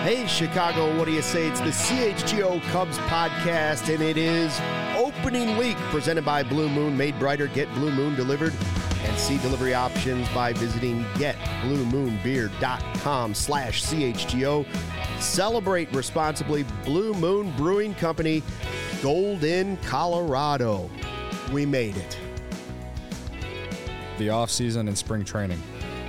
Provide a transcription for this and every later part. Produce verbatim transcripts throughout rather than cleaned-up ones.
Hey, Chicago, what do you say? It's the C H G O Cubs podcast, and it is opening week presented by Blue Moon. Made brighter, get Blue Moon delivered, and see delivery options by visiting get blue moon beer dot com slash C H G O. Celebrate responsibly. Blue Moon Brewing Company, Golden, Colorado. We made it. The off-season and spring training.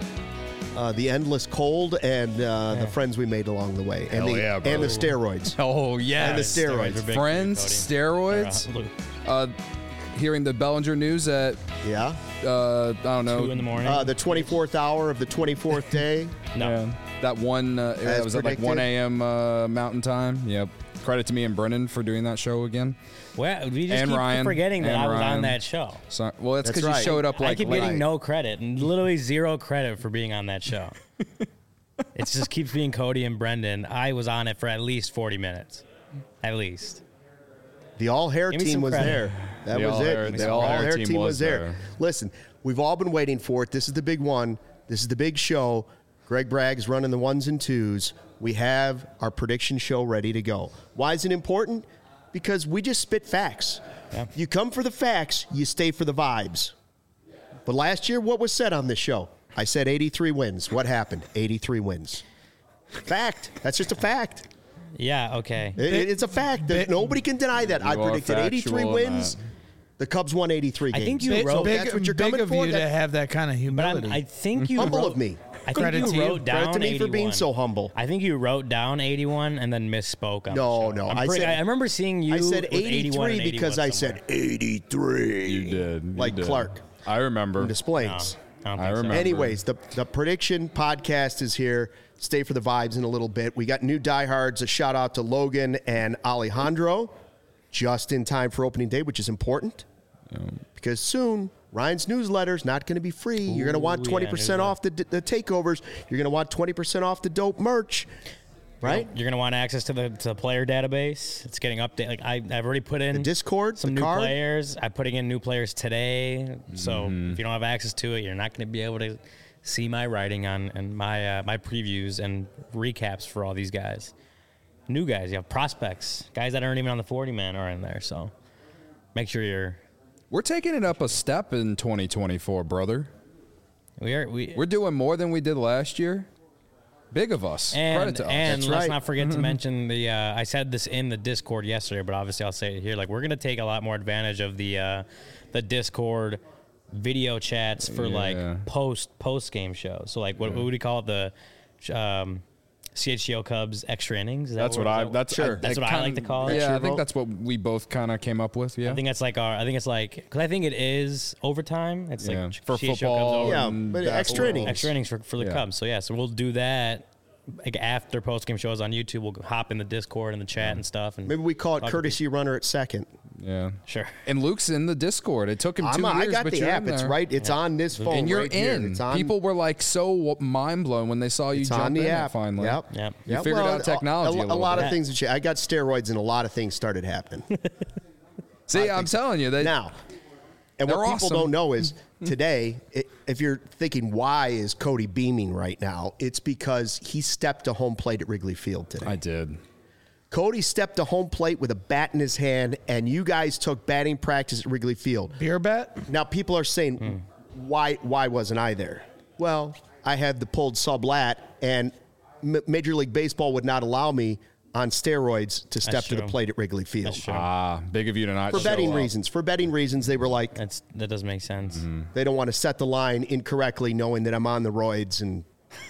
Uh, the endless cold and uh, yeah. the friends we made along the way. And, Hell the, yeah, bro. and the steroids. Oh, yeah. And the steroids. steroids friends, steroids. Uh, hearing the Bellinger news at, yeah, uh, I don't know. Two in the morning. Uh, the twenty-fourth hour of the twenty-fourth day. No. Yeah. That one, uh, that was at like one a.m. Uh, Mountain Time. Yep. Credit to me and Brennan for doing that show again. Well, we just and keep Ryan, forgetting that I was Ryan. on that show. So, well, that's because right. you showed up like I keep late. getting no credit, and literally zero credit for being on that show. It just keeps being Cody and Brendan. I was on it for at least forty minutes. At least. The all-hair team was credit. there. That the was all-hair, it. The, the all-hair all-hair team, team was, was there. there. Listen, we've all been waiting for it. This is the big one. This is the big show. Greg Bragg's running the ones and twos. We have our prediction show ready to go. Why is it important? Because we just spit facts. Yeah. You come for the facts, you stay for the vibes. But last year, what was said on this show? I said eighty-three wins. What happened? eighty-three wins. Fact. That's just a fact. Yeah, okay. It, it's a fact. That nobody can deny that. I predicted eighty-three wins. The Cubs won eighty-three games. I think you big, wrote big, that's what you're big coming of for. you That, to have that kind of But humility. I'm, I think you humble wrote, of me. I think Credit you to you. wrote down Credit to me for being eighty-one. so humble. I think you wrote down eighty-one and then misspoke on No, the show. no. I'm I pretty, said- I remember seeing you I said with eighty-one eighty-three and because I somewhere. said eighty-three. You did. You Like did. Clark. I remember. In Des Plaines. No, I don't I think so. remember. Anyways, the, the prediction podcast is here. Stay for the vibes in a little bit. We got new diehards. A shout out to Logan and Alejandro just in time for opening day, which is important because soon Ryan's newsletter's not going to be free. You're going to want Ooh, twenty yeah, percent off the, the takeovers. You're going to want twenty percent off the dope merch, right? You're going to want access to the to the player database. It's getting updated. Like I, I've already put in The Discord, some the new card. players. I'm putting in new players today. So Mm-hmm. if you don't have access to it, you're not going to be able to see my writing on and my uh, my previews and recaps for all these guys. New guys, you have prospects, guys that aren't even on the forty man are in there. So make sure you're. We're taking it up a step in twenty twenty-four, brother. We are we. We're doing more than we did last year. Big of us. And, Credit to us. and That's let's right. not forget to mention the. Uh, I said this in the Discord yesterday, but obviously I'll say it here. Like we're gonna take a lot more advantage of the uh, the Discord video chats for Yeah. like post post game shows. So like what, what would you call it? The um, C H G O Cubs extra innings. Is that That's what is I. that- That's Sure. That's it what I kinda- like to call it. Yeah, I Extra think vote. that's what we both kind of came up with. Yeah. I think that's like our. I think it's like because I think it is overtime. It's Yeah. like For C H G O football, Cubs over- Yeah, and but extra basketball. innings. extra innings for, for the Yeah. Cubs. So yeah, so we'll do that. Like after post game shows on YouTube, we'll hop in the Discord and the chat and stuff. And Maybe we call it talk to courtesy runner at second. Yeah. Sure. And Luke's in the Discord. It took him I'm, two I years, got but the you're app. in It's there. right. It's on this phone. And you're right here. in. It's on, People were like so mind blown when they saw you it's jump on the in app. it finally. Yep. Yep. You Yep. figured Well, out technology A, a a, little lot bit. of things. Have changed. I got steroids and a lot of things started happening. See, I'm telling you that. Now, and They're what people awesome. don't know is today, i if you're thinking why is Cody beaming right now, it's because he stepped to home plate at Wrigley Field today. I did. Cody stepped to home plate with a bat in his hand, and you guys took batting practice at Wrigley Field. Beer bet? Now, people are saying, why why wasn't I there? Well, I had the pulled sublat, and M- Major League Baseball would not allow me on steroids to step That's to the true. plate at Wrigley Field. That's true. Ah, big of you to not For show betting up. reasons. For betting reasons, they were like, That's that does make sense. they don't want to set the line incorrectly knowing that I'm on the roids. And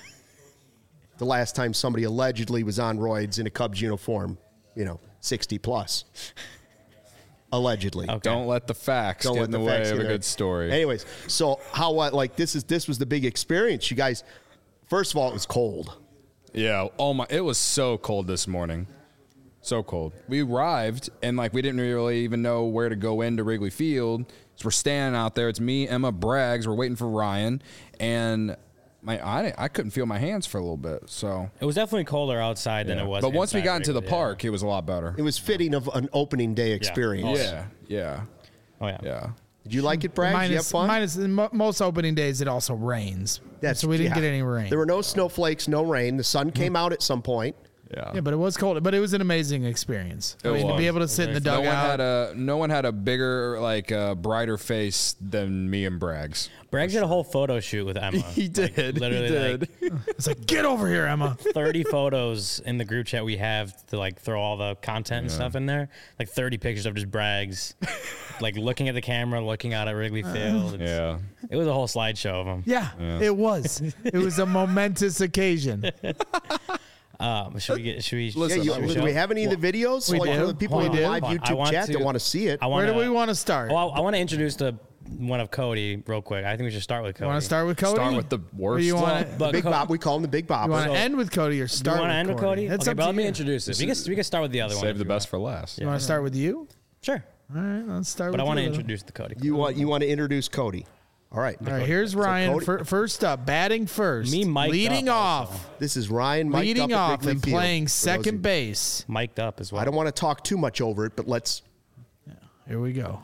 the last time somebody allegedly was on roids in a Cubs uniform, you know, sixty plus. Allegedly. Okay. Don't let the facts Don't get let in the, the way facts of get a there. good story. Anyways, so how what like this is this was the big experience. You guys, first of all, it was cold. Yeah. Oh my! It was so cold this morning. So cold. We arrived and like we didn't really even know where to go into Wrigley Field. So we're standing out there. It's me, Emma, Braggs. We're waiting for Ryan, and my I I couldn't feel my hands for a little bit. So, It was definitely colder outside than yeah. it was. But once we inside got into the Wrigley, yeah. park, it was a lot better. It was fitting of an opening day experience. Oh, Yeah. Yeah. Oh yeah. Yeah. Did you like it, Brad? Did you have Minus, fun? minus mo- most opening days, it also rains. That's- so we didn't yeah. get any rain. There were no snowflakes, no rain. The sun came out at some point. Yeah. Yeah, but it was cold. But it was an amazing experience. I It mean, to was. be able to sit in the No one dugout. had a no one had a bigger, like, uh, brighter face than me and Braggs. Braggs did a whole photo shoot with Emma. He did. Like, literally, he did. like It's like, get over here, Emma. thirty photos in the group chat we have to like throw all the content and stuff in there. Like thirty pictures of just Braggs, like looking at the camera, looking out at Wrigley Field. It's- yeah. It was a whole slideshow of them. Yeah, it was. It was a momentous occasion. Um, should we get? Should we? Yeah, Listen, you, should we do show? we have any of the videos? We like do. for the people Hold in on, the hold live on. I YouTube want chat to- that want to see it. I Where wanna, do we want to start? Well, I want to introduce the one of Cody real quick. I think we should start with Cody. Want to start with Cody? Start with the Or worst. you want Well, to but Big Co- Bob, we call him the Big Bob. you want to So- end with Cody or Do start you want with to end with Cody? Cody? That's Okay, up but to let me you. introduce it. We can, we can start with the other one. Save if the you best want. for last. You want to start with you? Sure. All right, let's start But with I want to you. introduce the Cody. You want you want to introduce Cody. All right. All right, here's Ryan. Cody- fir- first up, batting first. Me mic'd leading up off. also. This is Ryan mic'd Leading up at off Wrigley and Field, playing for those second of- base. Mic'd up as well. I don't want to talk too much over it, but let's. Here we go.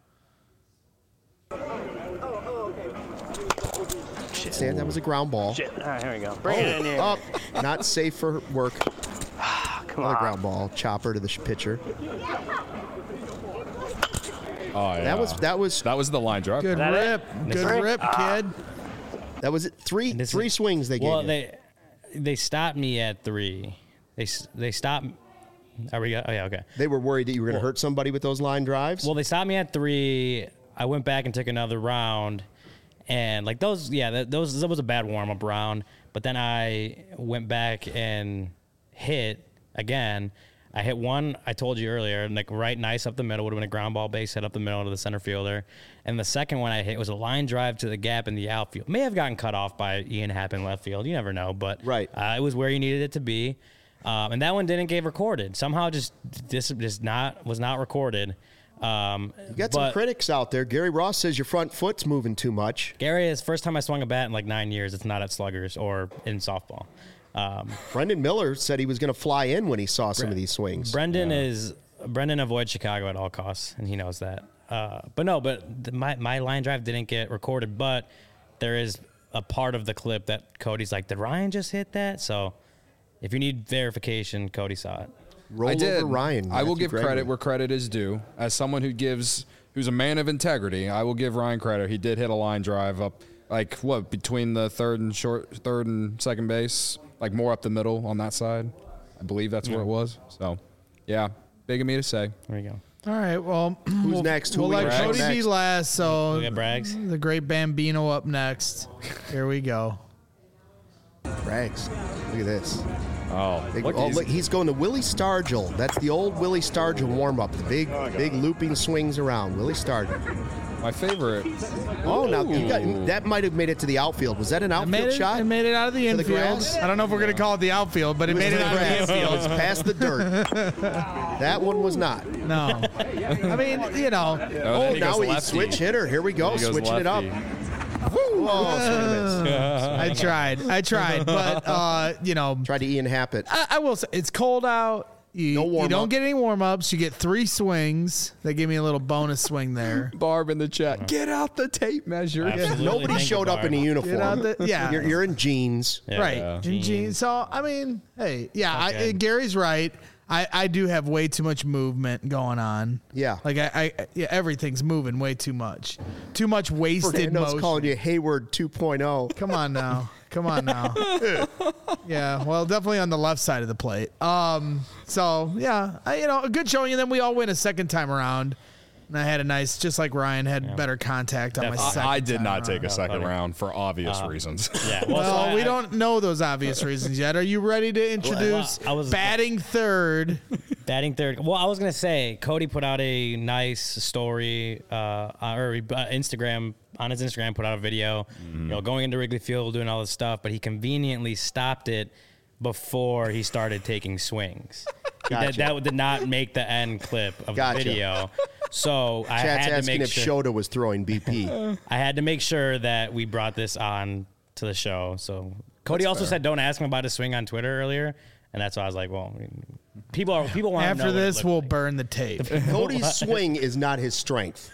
Stan, that was a ground ball. Shit. All right, here we go. Bring it in here. Up, not safe for work. Come Another on. ground ball. Chopper to the sh- pitcher. Oh, yeah. That was that was That was the line drive. Good that it? rip. Good Rip? rip, kid. that was it. Three And this three is- swings they gave Well, you. they they stopped me at three. They s- they stopped. Are we? Oh yeah, okay. They were worried that you were going to hurt somebody with those line drives. Well, they stopped me at three. I went back and took another round, and like those, yeah, that, those that was a bad warm up round. But then I went back and hit again. I hit one. I told you earlier, like right, nice up the middle. Would have been a ground ball base hit up the middle to the center fielder. And the second one I hit was a line drive to the gap in the outfield. May have gotten cut off by Ian Happ in left field. You never know, but Right. uh, it was where you needed it to be. Um, and that one didn't get recorded. Somehow, just this just not was not recorded. Um, you got some but critics out there. Gary Ross says your front foot's moving too much. Gary is first time I swung a bat in like nine years. It's not at sluggers or in softball. Um, Brendan Miller said he was going to fly in when he saw some of these swings. Brendan is Brendan avoids Chicago at all costs, and he knows that. Uh, but no, but the, my my line drive didn't get recorded. But there is a part of the clip that Cody's like, "Did Ryan just hit that?" So if you need verification, Cody saw it. Roll I did. over Ryan. I will Matthew give Gregory. credit where credit is due. As someone who gives, who's a man of integrity, I will give Ryan credit. He did hit a line drive up, like what between the third and short, third and second base, like more up the middle on that side. I believe that's where it was. So, yeah, big of me to say. There you go. All right, well, Who's we'll, next? Who we'll we let got Cody be next? last. So We got Braggs. the great Bambino up next. Here we go. Braggs. Look at this. Oh, Big, look, oh, he's- look, he's going to Willie Stargell. That's the old Willie Stargell warm-up. The big, big looping swings around. Willie Stargell. my favorite. Oh, now you got Ooh. that might have made it to the outfield. Was that an It outfield made it, shot? it made it out of the To the infield. grass? I don't know if we're going to call it the outfield, but it, It was made it the out of the grass. infield. It's past the dirt. That one was not. No. I mean, you know. Oh, then Oh, he now goes he's lefty. switch hitter. Here we go, He goes switching it up. lefty. Woo! Oh, swing and miss. I tried. I tried. But, uh, you know, Tried to Ian Happ. I, I will say it's cold out. You, No you warm-up. don't get any warm ups. You get three swings. They give me a little bonus swing there. Barb in the chat. Get out the tape measure. Absolutely. Nobody Thank you, showed up in a Barb. uniform. Get out the, yeah. You're, you're in jeans. Yeah. right. Yeah. And Gene- So, I mean, hey, yeah, I, Okay. Gary's right. I, I do have way too much movement going on. Yeah. Like, I, I yeah, everything's moving way too much. Too much wasted Fernando's motion. calling you Hayward two point oh. Come on now. Come on now. Yeah, well, definitely on the left side of the plate. Um, so yeah, I, you know, a good showing, and then we all win a second time around. And I had a nice, just like Ryan had better contact on my Definitely. second. I did time not around. take a second funny. round for obvious reasons. Yeah. Well, so Well, I- we I- don't know those obvious reasons yet. Are you ready to introduce I was- batting third? Batting third. Well, I was gonna say Cody put out a nice story, uh, or uh, Instagram on his Instagram put out a video, you know, going into Wrigley Field doing all this stuff, but he conveniently stopped it before he started taking swings. He Gotcha. did, that did not make the end clip of Gotcha. the video. So I Chat's had to asking make if sure Shota was throwing B P. I had to make sure that we brought this on to the show. So Cody also said, "Don't ask him about his swing on Twitter earlier," and that's why I was like, "Well, I mean, people are people want to know After what it this, looked we'll like. burn the tape. Cody's swing is not his strength.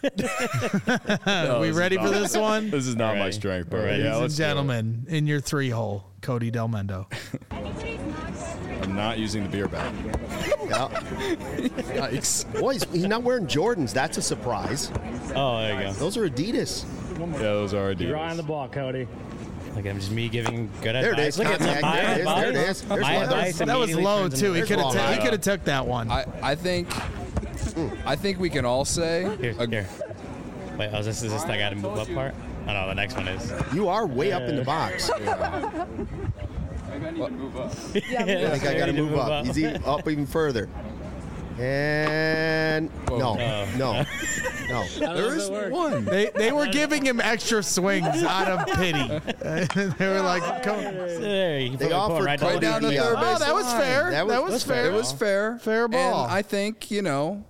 Are we ready for this one? This is not my Alright. strength, but Alright. yeah, Ladies and let's do it. gentlemen, in your three hole, Cody Del Mendo. I'm not using the beer bag. Yeah. Yikes. Boy, he's, he's not wearing Jordans. That's a surprise. Oh, there you go. Those are Adidas. Yeah, those are You're on Adidas. the ball, Cody. Look at him, just me giving good There it advice. is. Look at Contact. my There it is. advice. There it is. There's My one. advice That was immediately low turns too. He into- could have. wrong. Ta- he Yeah. could have took that one. I, I think I think we can all say Here, a- here. Wait, oh, is this is this I got to move up part? Oh no, the next one is. You are way up in the box. Yeah, I think I got to move up. He's even, up even further. And no, no, no. there is one. They they were giving him extra swings out of pity. They were like, "Come." There, you They put- put offered right Cody down down to the, third uh, base. Oh, that was fair. That That was- was, that's fair. It was fair. Fair ball. And I think, you know,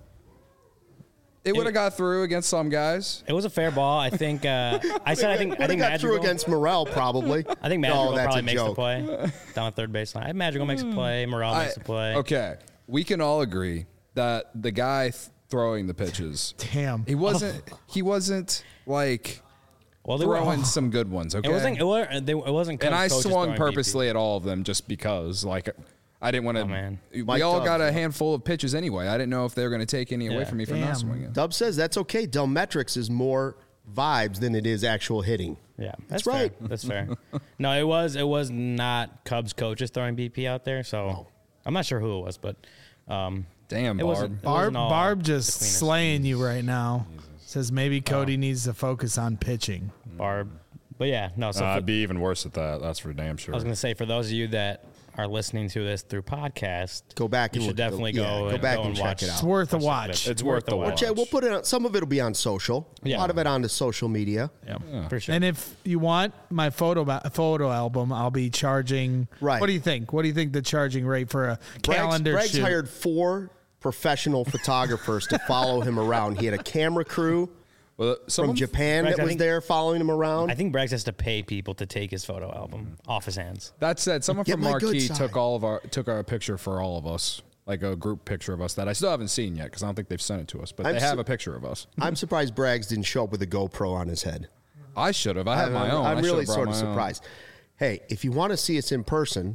it would have got through against some guys. It was a fair ball. I think. Uh, I said. I think. I Would have think got through Madrigal. against Morrell, probably. I think No, Madrigal that's probably a makes the joke. play down the third baseline. Madrigal makes a play. Morel makes I- the play. Okay, we can all agree that the guy th- throwing the pitches, Damn. he wasn't. He wasn't like Well, they were. throwing some good ones. Okay, It wasn't. It wasn't. They, it wasn't. and I coaches swung throwing purposely at all of them just because, like, I didn't want to. Oh, man. We Mike all Dubs, got a yeah. handful of pitches anyway. I didn't know if they were going to take any away Yeah. from me for Damn. not swinging. Dub says that's okay. Delmetrics is more vibes than it is actual hitting. Yeah, That's that's, right. Fair. That's fair. No, it was. It was not Cubs coaches throwing B P out there. So I'm not sure who it was, but um, Damn, it wasn't. Barb. It Barb wasn't all Barb the just cleanest. slaying you right now. Says maybe Cody needs to focus on pitching. Barb. But yeah, no. So Uh, for- I'd be even worse at that. That's for damn sure. I was gonna say for those of you that are listening to this through podcast, Go back you and should look at the- definitely yeah, go, go and, back go and and check watch. it out. It's worth a watch the watch. clips. It's worth the watch. watch. Yeah, we'll put it on. Some of it will be on social. Yeah. A lot of it onto social media. Yeah, for sure. And if you want my photo ba- photo album, I'll be charging. Right. What do you think? What do you think the charging rate for a calendar Greg's, Greg's shoot? hired four professional photographers to follow him around. He had a camera crew well, some from of- Japan Greg's, that I was think- there following him around. I think Braggs has to pay people to take his photo album off his hands. That said, someone Get from my good Marquee side. took all of our took our picture for all of us, like a group picture of us that I still haven't seen yet because I don't think they've sent it to us. But I'm they have su- a picture of us. I'm surprised Braggs didn't show up with a GoPro on his head. I should have. I have my I'm, own. I'm I really should've brought sort of my own. surprised. Hey, if you want to see us in person,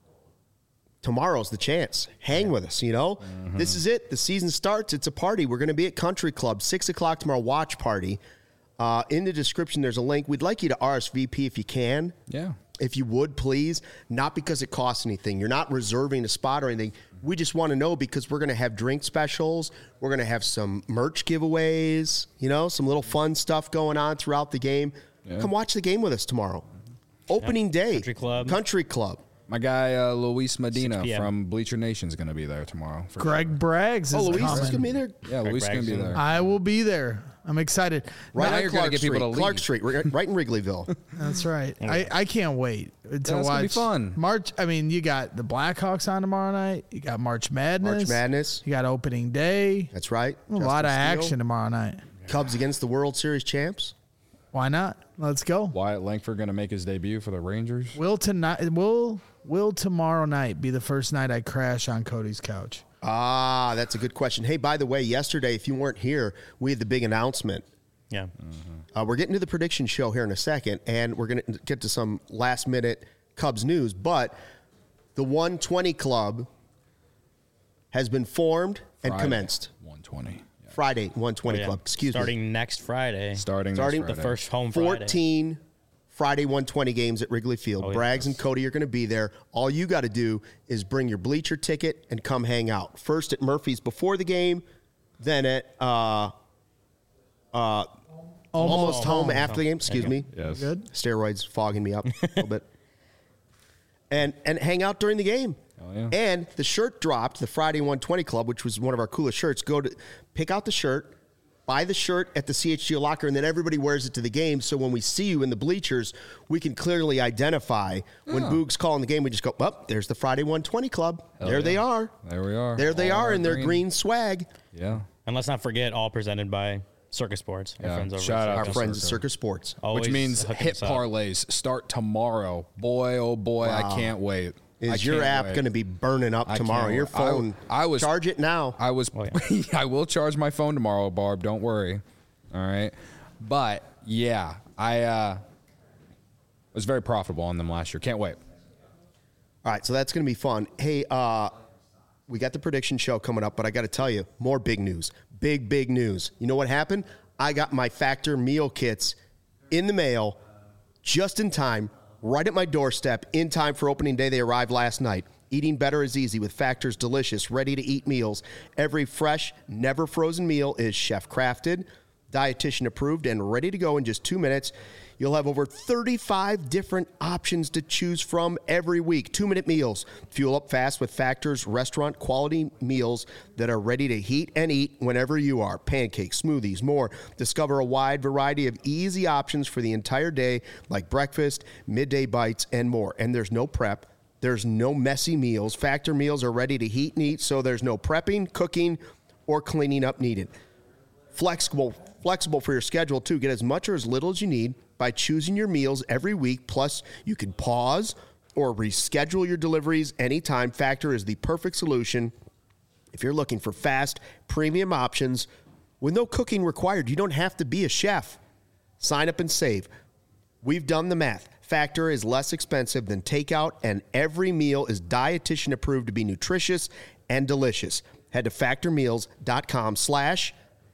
tomorrow's the chance. Hang with us, you know? Mm-hmm. This is it. The season starts. It's a party. We're going to be at Country Club, six o'clock tomorrow, watch party. Uh, in the description, there's a link. We'd like you to R S V P if you can. Yeah. If you would, please. Not because it costs anything. You're not reserving a spot or anything. We just want to know because we're going to have drink specials. We're going to have some merch giveaways, you know, some little fun stuff going on throughout the game. Come watch the game with us tomorrow. Opening day. Country Club. Country Club. My guy uh, Luis Medina six p.m. from Bleacher Nation is going to be there tomorrow. for Greg Braggs is Oh, Luis coming. is going to be there. sure. Yeah, Greg Luis is going to be Bragson. there. I will be there. I'm excited. Right Now on you're gonna Clark get people Street. to Clark leave. Street, right, right in Wrigleyville. That's right. I, I can't wait to it's watch. gonna be fun. March. I mean, you got the Blackhawks on tomorrow night. You got March Madness. March Madness. You got opening day. That's right. A lot of Justin Steele. action tomorrow night. Cubs against the World Series champs. Why not? Let's go. Wyatt Langford going to make his debut for the Rangers. Will tonight? Will Will tomorrow night be the first night I crash on Cody's couch? Ah, that's a good question. Hey, by the way, yesterday, if you weren't here, we had the big announcement. Yeah. Uh, we're getting to the prediction show here in a second, and we're going to get to some last minute Cubs news. But the one twenty Club has been formed and Friday, commenced. one twenty. Yeah. Friday, one twenty Oh, yeah. Club. Excuse Starting me. next Friday. Starting, Starting this the Friday. first home Friday. fourteen Friday one twenty games at Wrigley Field. Oh, yeah. Braggs and Cody are going to be there. All you got to do is bring your bleacher ticket and come hang out. First at Murphy's before the game, then at uh, uh, almost, home, after the game. Excuse me. Yes. Good. Steroids fogging me up a little bit. And and hang out during the game. Hell yeah. And the shirt dropped, the Friday one twenty Club, which was one of our coolest shirts. Go to pick out the shirt, buy the shirt at the C H G O locker, and then everybody wears it to the game. So when we see you in the bleachers, we can clearly identify when Boog's calling the game. We just go, "Up, oh, there's the Friday one twenty Club. Hell there yeah. they are. There we are. There they All are our in their green swag." Yeah. And let's not forget, all presented by Circus Sports. Our Yeah. friends over Shout at out Our to Circus. friends at Circa. Circus Sports. Always Which means hooking hit us up. parlays start tomorrow. Boy, oh boy, I Wow. can't wait. I Is your can't app wait. going to be burning up I tomorrow? can't Your wait. I- phone. I was- charge it now. I was. Oh, I will charge my phone tomorrow, Barb. Don't worry. All right. But yeah, I uh, was very profitable on them last year. Can't wait. All right, so that's going to be fun. Hey, uh, we got the prediction show coming up, but I got to tell you, more big news. Big, big news. You know what happened? I got my Factor meal kits in the mail just in time, right at my doorstep, in time for opening day. They arrived last night. Eating better is easy with Factor's delicious, ready-to-eat meals. Every fresh, never frozen meal is chef-crafted, dietitian approved, and ready to go in just two minutes. You'll have over thirty-five different options to choose from every week. Two-minute meals. Fuel up fast with Factor's restaurant-quality meals that are ready to heat and eat whenever you are. Pancakes, smoothies, more. Discover a wide variety of easy options for the entire day, like breakfast, midday bites, and more. And there's no prep. There's no messy meals. Factor meals are ready to heat and eat, so there's no prepping, cooking, or cleaning up needed. Flexible, flexible for your schedule, too. Get as much or as little as you need by choosing your meals every week. Plus, you can pause or reschedule your deliveries anytime. Factor is the perfect solution if you're looking for fast, premium options with no cooking required. You don't have to be a chef. Sign up and save. We've done the math. Factor is less expensive than takeout, and every meal is dietitian approved to be nutritious and delicious. Head to factormeals.com slash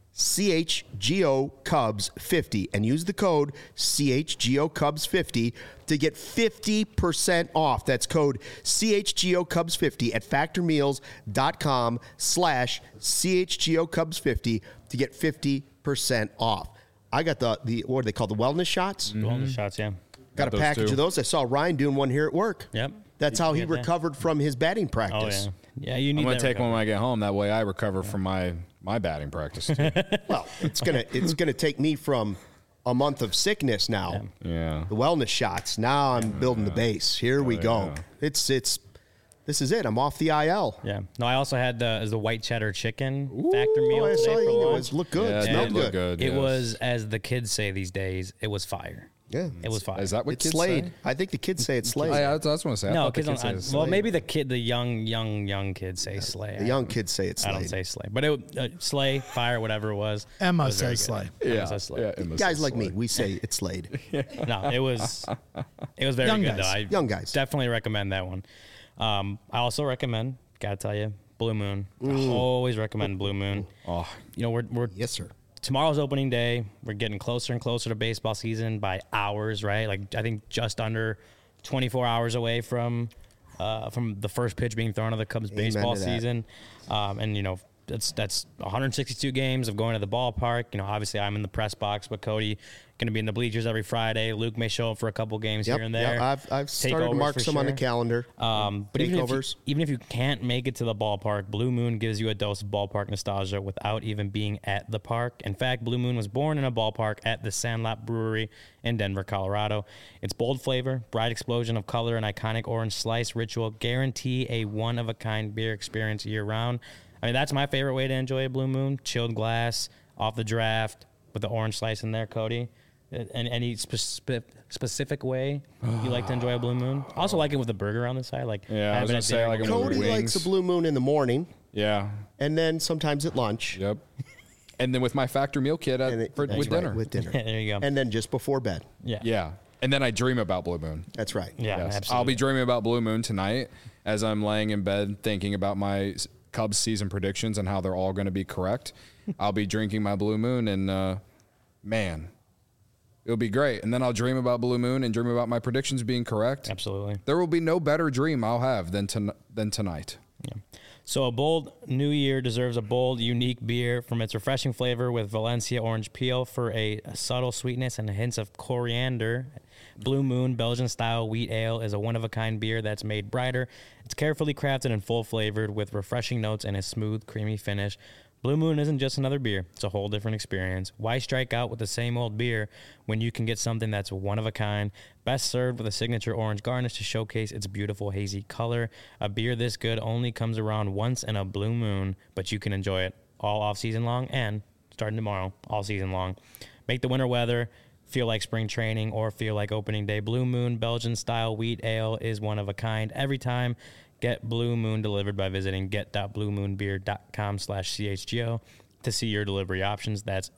CHGO Cubs fifty and use the code C H G O Cubs fifty to get fifty percent off. That's code C H G O Cubs fifty at factormeals.com slash CHGO Cubs fifty to get fifty percent off. I got the, the what are they called? The wellness shots? Mm-hmm. Wellness shots, yeah. Got a those package too. of those. I saw Ryan doing one here at work. Yep. That's You how can he get that. recovered from his batting Oh, practice. yeah. Yeah, you need I'm gonna that take one recovery. when I get home. That way, I recover from my my batting practice. Too. Well, it's gonna it's gonna take me from a month of sickness now. Yeah. The wellness shots. Now I'm building the base. Here we go. yeah. It's it's this is it. I'm off the I L. Yeah. No, I also had the, the white cheddar chicken factor meal Oh, I today saw for you. It lunch. was look good. Yeah, it Smelled did good. look good. It yes. was, as the kids say these days, it was fire. Yeah. It was fire. Is that what It's kids Slayed. say? I think the kids say it's Slayed. I, I, that's what I was going to say. I no, thought the kids kids don't. say I, well, Slade. maybe the kid, the young, young, young kids say slay. the young kids say it's I Slayed. don't say slay, but it uh, slay, fire, whatever it was. Emma it was very says good. slay. Emma Yeah, says slay. yeah, it must Guys say like me, Slade. we say it's Slayed. No, it was it was very Young good guys. though. I Young guys. definitely recommend that one. Um, I also recommend, gotta tell you, Blue Moon. I always recommend Blue Moon. Oh, You know, we're we're Yes, sir. tomorrow's opening day. We're getting closer and closer to baseball season by hours, right? Like I think just under twenty-four hours away from uh, from the first pitch being thrown of the Cubs Amen baseball to that. season. Um, and you know, that's that's one hundred sixty-two games of going to the ballpark. You know, obviously I'm in the press box, but Cody going to be in the bleachers every Friday. Luke may show up for a couple games Yep, here and there. yep. I've I've started to Takeovers mark for some on the sure. calendar. Um, but even if, you, Takeovers. even if you can't make it to the ballpark, Blue Moon gives you a dose of ballpark nostalgia without even being at the park. In fact, Blue Moon was born in a ballpark at the Sandlot Brewery in Denver, Colorado. Its bold flavor, bright explosion of color, and iconic orange slice ritual guarantee a one-of-a-kind beer experience year-round. I mean, that's my favorite way to enjoy a Blue Moon. Chilled glass, off the draft, with the orange slice in there, Cody. And any spe- specific way you like to enjoy a Blue Moon? I also like it with the burger on the side. Like Yeah, I was having gonna it say, there like with it with the Cody wings. likes a blue moon in the morning, yeah. and then sometimes at lunch. Yep. And then with my factor meal kit at, And it- for, that's with right, dinner. With dinner. There you go. And then just before bed. yeah. yeah. And then I dream about Blue Moon. That's right. Yeah, Yes. absolutely. I'll be dreaming about Blue Moon tonight as I'm laying in bed thinking about my s- Cubs season predictions and how they're all going to be correct. I'll be drinking my Blue Moon, and uh, man, it'll be great. And then I'll dream about Blue Moon and dream about my predictions being correct. Absolutely. There will be no better dream I'll have than ton- than tonight. Yeah. So a bold new year deserves a bold, unique beer from its refreshing flavor with Valencia orange peel for a subtle sweetness and hints of coriander. Blue Moon Belgian-style wheat ale is a one-of-a-kind beer that's made brighter. It's carefully crafted and full-flavored with refreshing notes and a smooth, creamy finish. Blue Moon isn't just another beer. It's a whole different experience. Why strike out with the same old beer when you can get something that's one of a kind, best served with a signature orange garnish to showcase its beautiful hazy color? A beer this good only comes around once in a blue moon, but you can enjoy it all off season long and starting tomorrow, all season long. Make the winter weather feel like spring training or feel like opening day. Blue Moon Belgian style wheat ale is one of a kind every time. Get Blue Moon delivered by visiting get.bluemoonbeer.com slash CHGO to see your delivery options. That's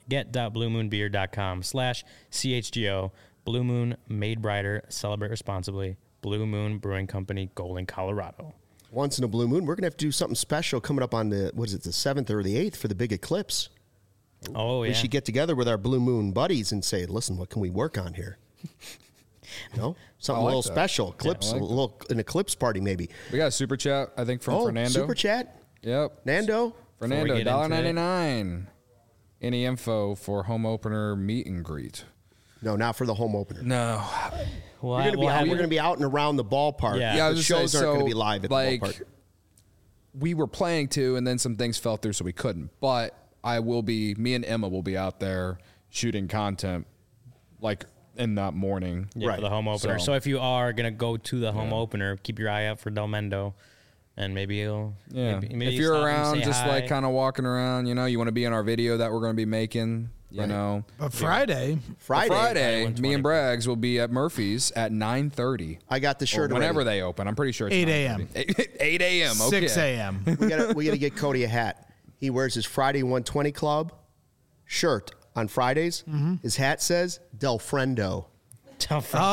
get.bluemoonbeer.com slash CHGO. Blue Moon, made brighter. Celebrate responsibly. Blue Moon Brewing Company, Golden, Colorado. Once in a blue moon, we're going to have to do something special coming up on the, what is it, the seventh or the eighth for the big eclipse. Oh, yeah. We should get together with our blue moon buddies and say, listen, what can we work on here? You know, something I like a little that. special, eclipse, I like a little an eclipse party maybe. We got a super chat, I think, from Oh, Fernando. super chat, Yep. Nando. Fernando, get one into it. ninety-nine. Any info for home opener meet and greet? No, not for the home opener. No. Well, We're gonna be we'll out, have- we're going to be out and around the ballpark. Yeah. Yeah, I the was gonna shows say, aren't going so, to be live at like, the ballpark. We were planning to, and then some things fell through, so we couldn't. But I will be, me and Emma will be out there shooting content, like in that morning. Yeah, Right. for the home opener. So- So, if you are gonna go to the home opener, keep your eye out for Del Mendo, and maybe he'll. Yeah. Maybe, maybe if you're stop and around, say just hi. like kind of walking around, you know, you want to be in our video that we're going to be making, you Right. know. But Friday, Friday, Friday, Friday, me and Braggs will be at Murphy's at nine thirty. I got the shirt Whenever already. they open. I'm pretty sure it's eight nine a.m. thirty. eight a.m. Okay. six a.m. we got we got to get Cody a hat. He wears his Friday one twenty Club shirt on Fridays. Mm-hmm. His hat says Del Friendo. Tell Frank.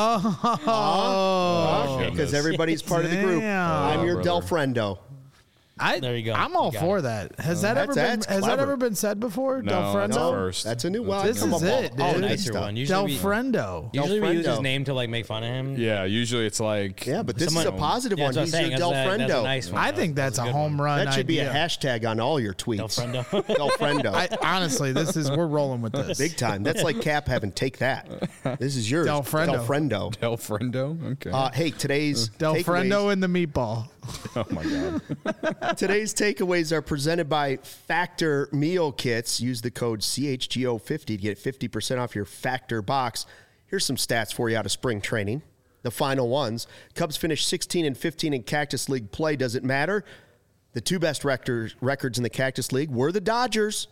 Oh, Because everybody's part of the group. Damn. I'm your Oh, Del brother. Friendo. I, There you go. I'm all You got for it. that. Has that That's- ever been? that's Has that clever. ever been said before? No, Del that's Friendo. the first. That's a new one. This Come is up all- it, all dude. that Nicer stuff. one. Usually Del we, Friendo. usually we use his Friendo. name to like make fun of him. Yeah, usually it's like. Yeah, but this Someone- is a positive Yeah, one. that's He's what I'm your saying. Del That's a- that's a Friendo. nice one. I think that's a a good home one. run. That should be a idea. hashtag on all your tweets. Del Friendo. Del Friendo. I, honestly, this is we're rolling with this. Big time. That's like Cap having take that. This is yours. Del Friendo. Del Friendo. Del Friendo? Okay. Uh, hey, today's Del takeaways- Friendo and the meatball. oh, my God. Today's takeaways are presented by Factor Meal Kits. Use the code C H G O fifty to get fifty percent off your Factor box. Here's some stats for you out of spring training. The final ones. Cubs finished sixteen and fifteen in Cactus League play. Does it matter? The two best record, records in the Cactus League were the Dodgers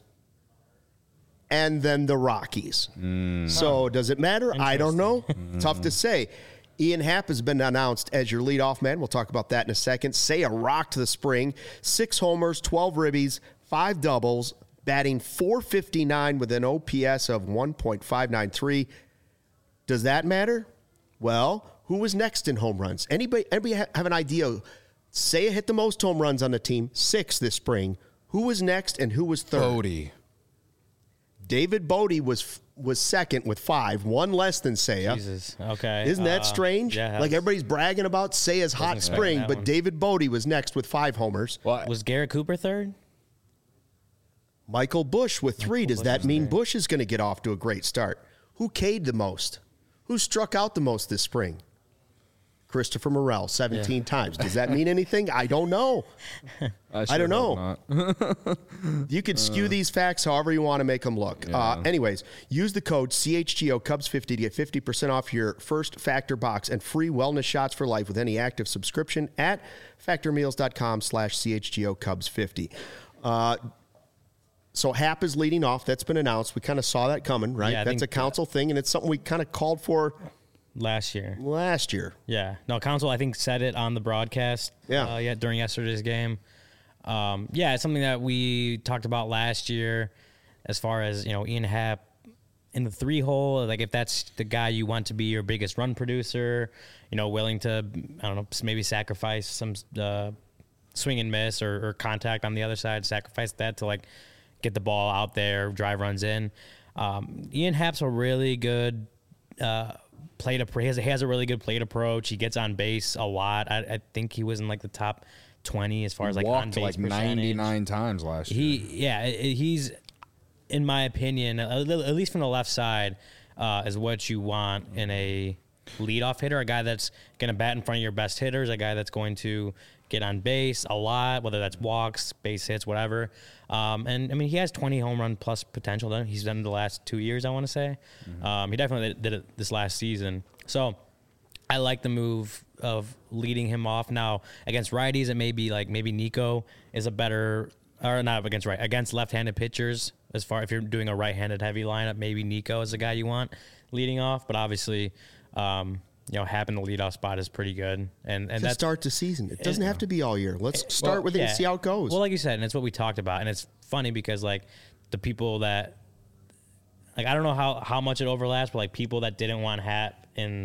and then the Rockies. So does it matter? I don't know. Tough to say. Ian Happ has been announced as your leadoff man. We'll talk about that in a second. Say a rock to the spring. Six homers, twelve ribbies, five doubles, batting four fifty-nine with an O P S of one point five nine three. Does that matter? Well, who was next in home runs? Anybody, anybody ha- have an idea? Say hit the most home runs on the team, six this spring. Who was next and who was third? Bodie. David Bodie was was second with five, one less than Seiya. Jesus. Okay. Isn't that Uh, strange? Yeah. Like everybody's bragging about Seiya's hot expect spring, that but one. David Bodie was next with five homers. Well, Was Garrett Cooper third? Michael Bush with three. Does Bush that was mean third. Bush is going to get off to a great start? Who K'd the most? Who struck out the most this spring? Christopher Morel, seventeen times. Does that mean anything? I don't know. I, I don't know. know. You can skew these facts however you want to make them look. Uh, anyways, use the code C H G O Cubs fifty to get fifty percent off your first Factor box and free wellness shots for life with any active subscription at factormeals.com slash CHGO Cubs 50. Uh, so Happ is leading off. That's been announced. We kind of saw that coming, right? Yeah, I That's think a council thing, and it's something we kind of called for Last year. last year. Yeah. No, Council, I think, said it on the broadcast. Yeah. Uh, yeah, during yesterday's game. Um, yeah, it's something that we talked about last year as far as, you know, Ian Happ in the three hole. Like, if that's the guy you want to be your biggest run producer, you know, willing to, I don't know, maybe sacrifice some uh, swing and miss or, or contact on the other side, sacrifice that to, like, get the ball out there, drive runs in. Um, Ian Happ's a really good uh, plate. He has, he has a really good plate approach. He gets on base a lot. I, I think he was in like the top twenty as far as like on Walked base like percentage. ninety-nine times last year. He, yeah, i- i- he's, in my opinion, a li- at least from the left side, uh, is what you want in a leadoff hitter. A guy that's going to bat in front of your best hitters. A guy that's going to get on base a lot, whether that's walks, base hits, whatever. Um, and I mean, he has twenty home run plus potential. Then he's done it the last two years, I want to say. Mm-hmm. Um, he definitely did it this last season. So I like the move of leading him off. Now against righties, it may be like maybe Nico is a better, or not against right against left-handed pitchers. As far if you're doing a right-handed heavy lineup, maybe Nico is the guy you want leading off. But obviously, um, you know, Happ in the leadoff spot is pretty good, and and To that's start the season. It doesn't have to be all year. Let's start well, with it and yeah. see how it goes. Well, like you said, and it's what we talked about, and it's funny because like the people that, like I don't know how how much it overlaps, but like people that didn't want Happ in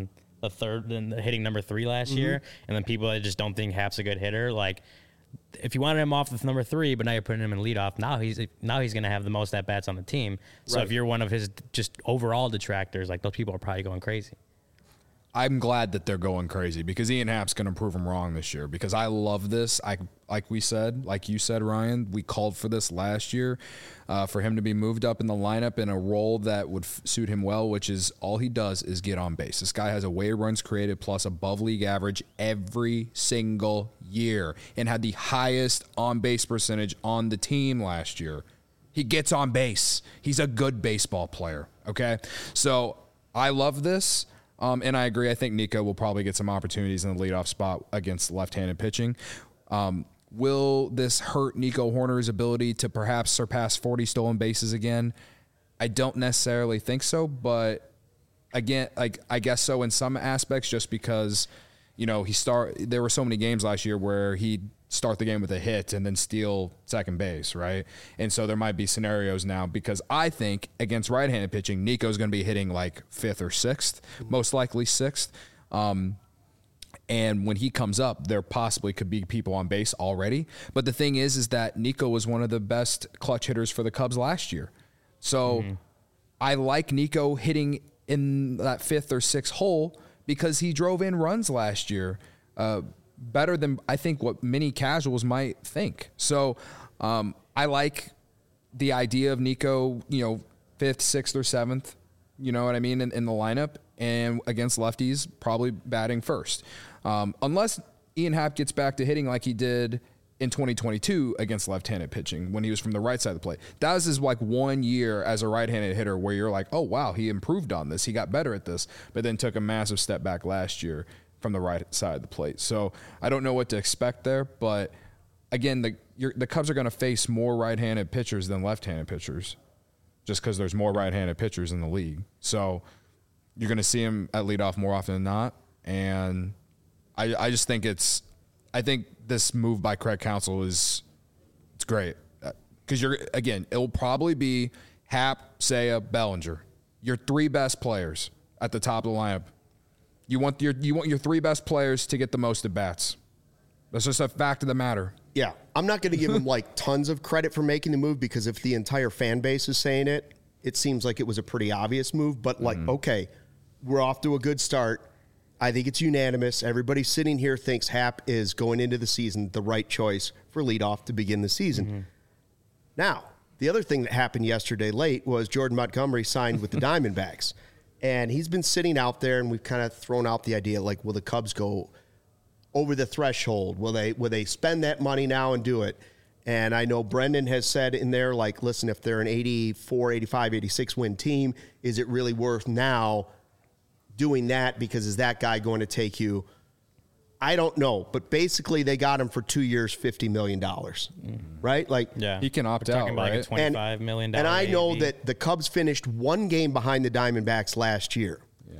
the third, and hitting number three last mm-hmm. year, and then people that just don't think Hap's a good hitter, like if you wanted him off with number three, but now you're putting him in leadoff, now he's now he's going to have the most at bats on the team. So right. if you're one of his just overall detractors, like those people are probably going crazy. I'm glad that they're going crazy because Ian Happ's going to prove them wrong this year because I love this. I like we said, like you said, Ryan, we called for this last year uh, for him to be moved up in the lineup in a role that would f- suit him well, which is all he does is get on base. This guy has a way runs created plus above league average every single year and had the highest on base percentage on the team last year. He gets on base. He's a good baseball player. Okay. So I love this. Um, and I agree. I think Nico will probably get some opportunities in the leadoff spot against left-handed pitching. Um, will this hurt Nico Hoerner's ability to perhaps surpass forty stolen bases again? I don't necessarily think so, but again, like I guess so in some aspects, just because you know he start. There were so many games last year where he'd start the game with a hit and then steal second base, right? And so there might be scenarios now because I think against right-handed pitching, Nico's going to be hitting like fifth or sixth, most likely sixth. Um, and when he comes up, there possibly could be people on base already. But the thing is, is that Nico was one of the best clutch hitters for the Cubs last year. So mm-hmm. I like Nico hitting in that fifth or sixth hole because he drove in runs last year. Uh, better than I think what many casuals might think. So um, I like the idea of Nico, you know, fifth, sixth, or seventh, you know what I mean, in, in the lineup. And against lefties, probably batting first. Um, unless Ian Happ gets back to hitting like he did in twenty twenty-two against left-handed pitching when he was from the right side of the plate. That was his like one year as a right-handed hitter where you're like, oh, wow, he improved on this. He got better at this, but then took a massive step back last year from the right side of the plate. So I don't know what to expect there, but again, the you're, the Cubs are going to face more right-handed pitchers than left-handed pitchers just because there's more right-handed pitchers in the league. So you're going to see him at leadoff more often than not, and I, I just think it's I think this move by Craig Counsell is it's great because you're again it'll probably be Happ, Seiya, Bellinger, your three best players at the top of the lineup. You want your you want your three best players to get the most at bats. That's just a fact of the matter. Yeah, I'm not going to give him like tons of credit for making the move because if the entire fan base is saying it, it seems like it was a pretty obvious move. But like, mm-hmm. okay, we're off to a good start. I think it's unanimous. Everybody sitting here thinks Happ is going into the season the right choice for leadoff to begin the season. Mm-hmm. Now, the other thing that happened yesterday late was Jordan Montgomery signed with the Diamondbacks. And he's been sitting out there, and we've kind of thrown out the idea, like, will the Cubs go over the threshold? Will they will they spend that money now and do it? And I know Brendan has said in there, like, listen, if they're an eighty-four, eighty-five, eighty-six win team, is it really worth now doing that? Because is that guy going to take you? I don't know. But basically, they got him for two years, fifty million dollars, mm-hmm. right? Like, yeah, he can opt We're out, talking about right? like a twenty-five million dollars And I know A A V. that the Cubs finished one game behind the Diamondbacks last year. Yeah.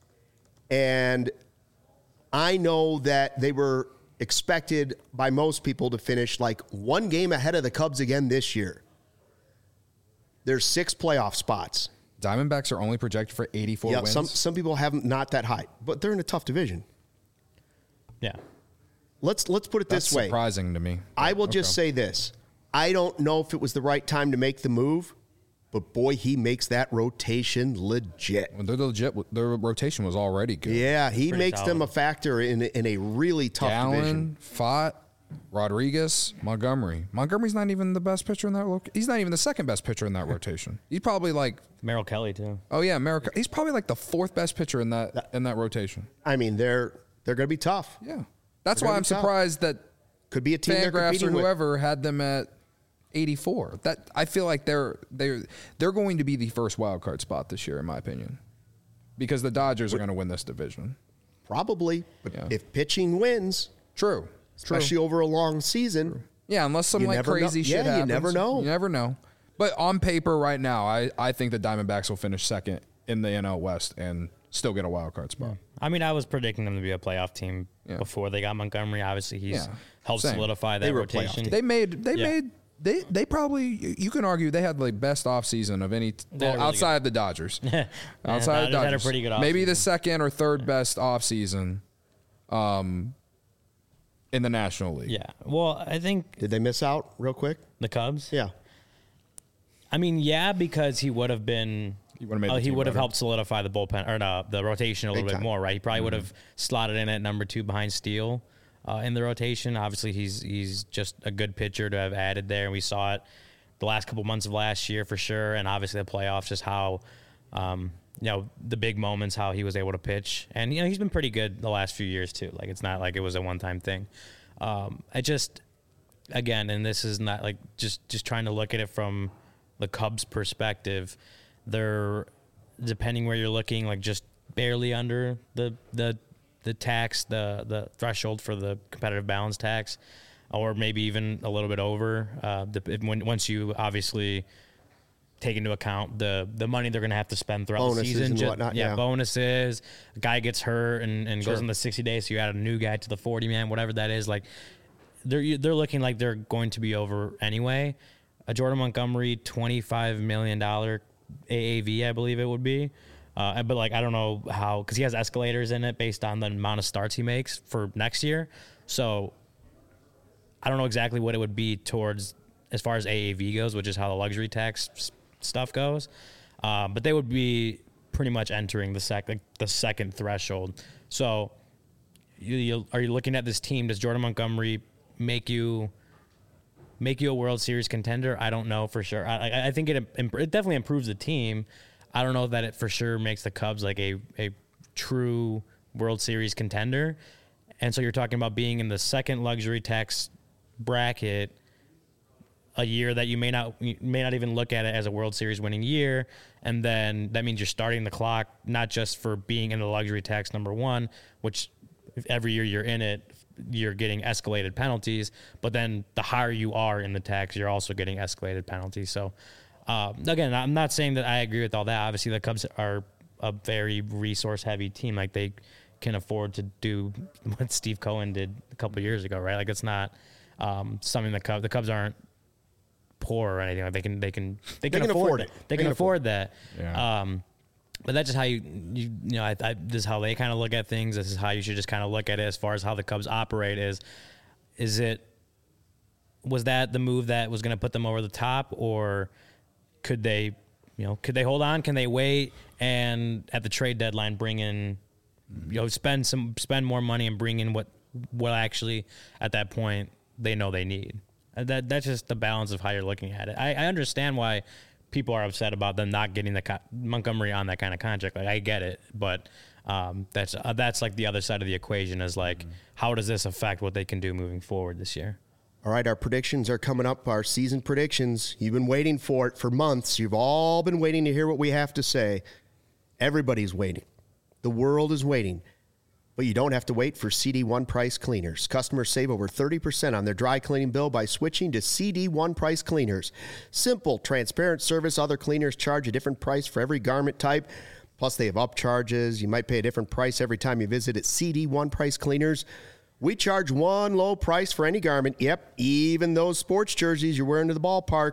And I know that they were expected by most people to finish like one game ahead of the Cubs again this year. There's six playoff spots. Diamondbacks are only projected for eighty-four yeah, wins. Some some people have them not that high, but they're in a tough division. Yeah. Let's let's put it That's this way. surprising to me. I will just say this. I don't know if it was the right time to make the move, but boy, he makes that rotation legit. Well, they're legit. Their rotation was already good. Yeah, he Pretty makes solid. them a factor in in a really tough Gallen, division. Fott, Rodriguez, Montgomery. Montgomery's not even the best pitcher in that. Lo- he's not even the second best pitcher in that rotation. He's probably like, Merrill Kelly too. oh yeah, America. He's probably like the fourth best pitcher in that in that rotation. I mean, they're they're going to be tough. Yeah, that's They're why gonna I'm be tough. surprised that Could be a team they're Fangraphs or competing with. whoever had them at eighty-four. That I feel like they're they're they're going to be the first wild card spot this year, in my opinion, because the Dodgers are going to win this division. Probably, but Yeah. if pitching wins, True, especially over a long season, yeah, unless some You like never know. crazy Yeah, shit you happens. never know. You never know. But on paper, right now, I I think the Diamondbacks will finish second in the N L West and still get a wild card spot. I mean, I was predicting them to be a playoff team Yeah. before they got Montgomery. Obviously, he's Yeah. helped Same. solidify that They were a playoff rotation. team. They made they Yeah. made They they probably, you can argue they had the best offseason of any, well, really outside of the Dodgers. Yeah, outside of the Dodgers had a Dodgers. pretty good Maybe the offseason. second or third best offseason um, in the National League. Yeah. Well, I think Did they miss out real quick? the Cubs. Yeah. I mean, yeah, because he would have been. He would've made the uh, he team would have better. helped solidify the bullpen or no, the rotation a Big little bit time. more, right? He probably would Mm-hmm. have slotted in at number two behind Steele uh, in the rotation. Obviously, he's he's just a good pitcher to have added there, and we saw it the last couple months of last year for sure, and obviously the playoffs, just how. Um, you know, the big moments, how he was able to pitch. And, you know, he's been pretty good the last few years, too. Like, it's not like it was a one-time thing. Um, I just, again, and this is not, like, just, just trying to look at it from the Cubs' perspective. They're, depending where you're looking, like, just barely under the the the tax, the, the threshold for the competitive balance tax, or maybe even a little bit over. Uh, the, when, once you, obviously, take into account the the money they're going to have to spend throughout Bonuses the season. and Ju- whatnot, yeah, yeah. bonuses. A guy gets hurt and, and Sure. goes in the sixty days, so you add a new guy to the forty man, whatever that is. Like they're they're looking like they're going to be over anyway. A Jordan Montgomery twenty-five million dollars A A V, I believe it would be. Uh, but like I don't know how, because he has escalators in it based on the amount of starts he makes for next year. So I don't know exactly what it would be towards as far as A A V goes, which is how the luxury tax s- stuff goes. Um, but they would be pretty much entering the sec like the second threshold. So you, you are you looking at this team? Does Jordan Montgomery make you make you a World Series contender? I don't know for sure. I, I- I think it imp- it definitely improves the team. I don't know that it for sure makes the Cubs like a a true World Series contender. And so you're talking about being in the second luxury tax bracket a year that you may not you may not even look at it as a World Series winning year, and then that means you're starting the clock not just for being in the luxury tax number one, which every year you're in it, you're getting escalated penalties, but then the higher you are in the tax, you're also getting escalated penalties. So um, again, I'm not saying that I agree with all that. Obviously, the Cubs are a very resource heavy team. Like they can afford to do what Steve Cohen did a couple of years ago, right? Like it's not um, something the Cubs the Cubs aren't poor or anything. Like they can they can they can, can afford, afford it. it. They, They can can afford that. Yeah. Um, but that's just how you you, you know I, I, this is how they kind of look at things. This is how you should just kind of look at it as far as how the Cubs operate. Is is it was that the move that was going to put them over the top, or could they you know could they hold on? Can they wait and at the trade deadline bring in you know spend some spend more money and bring in what what actually at that point they know they need. That that's just the balance of how you're looking at it. I, I understand why people are upset about them not getting the co- Montgomery on that kind of contract. Like I get it, but um, that's uh, that's like the other side of the equation is like mm-hmm. how does this affect what they can do moving forward this year? All right, our predictions are coming up, our season predictions. You've been waiting for it for months. You've all been waiting to hear what we have to say. Everybody's waiting. The world is waiting. But you don't have to wait for C D one Price Cleaners. Customers save over thirty percent on their dry cleaning bill by switching to C D one Price Cleaners. Simple, transparent service. Other cleaners charge a different price for every garment type. Plus, they have upcharges. You might pay a different price every time you visit at C D one Price Cleaners. We charge one low price for any garment. Yep, even those sports jerseys you're wearing to the ballpark.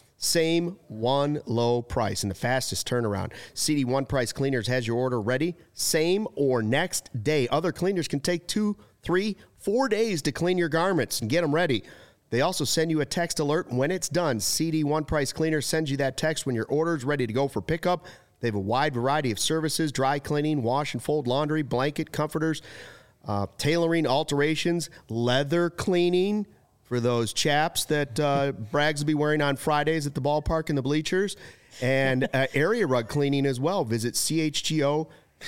Same one low price and the fastest turnaround. C D one Price Cleaners has your order ready same or next day. Other cleaners can take two, three, four days to clean your garments and get them ready. They also send you a text alert when it's done. C D one Price Cleaners sends you that text when your order is ready to go for pickup. They have a wide variety of services: dry cleaning, wash and fold laundry, blanket, comforters, uh, tailoring, alterations, leather cleaning, for those chaps that uh, Braggs will be wearing on Fridays at the ballpark and the bleachers, and uh, area rug cleaning as well. Visit C H G O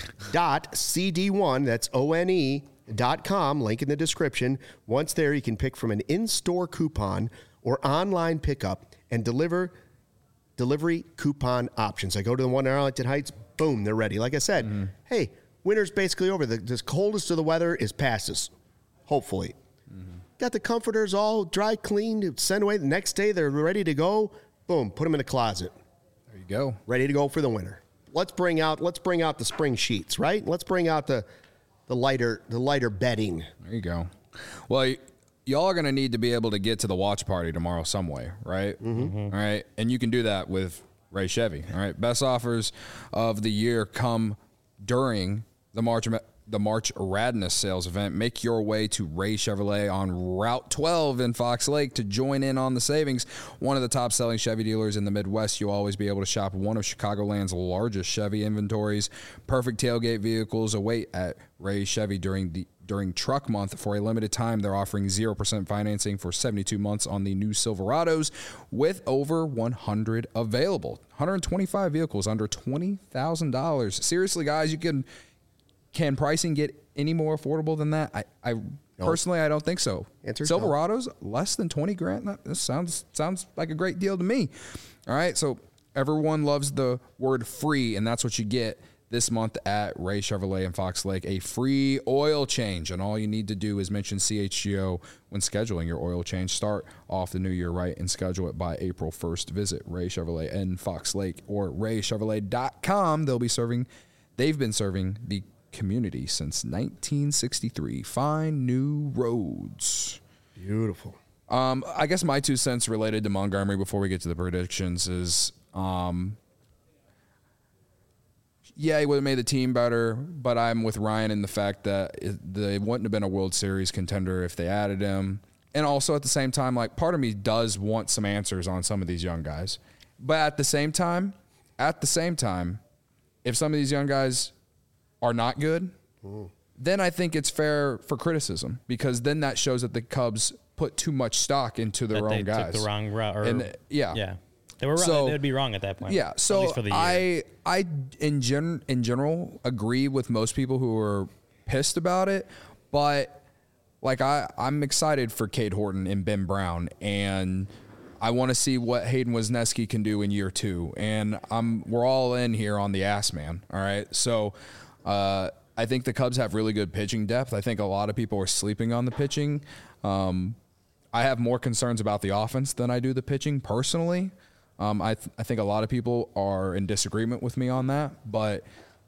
dot C D one, that's O N E, dot com, link in the description. Once there, you can pick from an in-store coupon or online pickup and deliver delivery coupon options. I go to the one in Arlington Heights, boom, they're ready. Like I said, mm-hmm. hey, winter's basically over. The, the coldest of the weather is past us, hopefully. Got the comforters all dry cleaned, sent away. The next day, they're ready to go. Boom, put them in the closet. There you go. Ready to go for the winter. Let's bring out let's bring out the spring sheets, right? Let's bring out the the lighter the lighter bedding. There you go. Well, y'all are going to need to be able to get to the watch party tomorrow some way, right? Mm-hmm. All right. And you can do that with Ray Chevy. All right. Best offers of the year come during the March the March Radness sales event. Make your way to Ray Chevrolet on Route twelve in Fox Lake to join in on the savings. One of the top selling Chevy dealers in the Midwest. You'll always be able to shop one of Chicagoland's largest Chevy inventories. Perfect tailgate vehicles await at Ray Chevy during the During Truck Month. For a limited time, they're offering zero percent financing for seventy-two months on the new Silverados with over one hundred available. one hundred twenty-five vehicles under twenty thousand dollars. Seriously, guys, you can can pricing get any more affordable than that? I, I no. personally, I don't think so. Answer Silverados, no. less than twenty grand. This sounds sounds like a great deal to me. All right, so everyone loves the word free, and that's what you get this month at Ray Chevrolet in Fox Lake, a free oil change. And all you need to do is mention C H G O when scheduling your oil change. Start off the new year right and schedule it by April first. Visit Ray Chevrolet in Fox Lake or ray chevrolet dot com. They'll be serving, they've been serving the community since nineteen sixty-three. Find new roads. Beautiful. Um, I guess my two cents related to Montgomery before we get to the predictions is, um, yeah, he would have made the team better, but I'm with Ryan in the fact that it, they wouldn't have been a World Series contender if they added him. And also at the same time, like, part of me does want some answers on some of these young guys. But at the same time, at the same time, if some of these young guys are not good, mm. then I think it's fair for criticism, because then that shows that the Cubs put too much stock into their that own they guys. Took the wrong route. Or, and, yeah. Yeah. They were wrong. So, they would be wrong at that point. Yeah. So at least for the year. I, I in gen, in general agree with most people who are pissed about it, but like I, I'm excited for Cade Horton and Ben Brown, and I want to see what Hayden Wesneski can do in year two. And I'm we're all in here on the ass man. All right. So uh, I think the Cubs have really good pitching depth. I think a lot of people are sleeping on the pitching. Um, I have more concerns about the offense than I do the pitching personally. Um, I th- I think a lot of people are in disagreement with me on that, but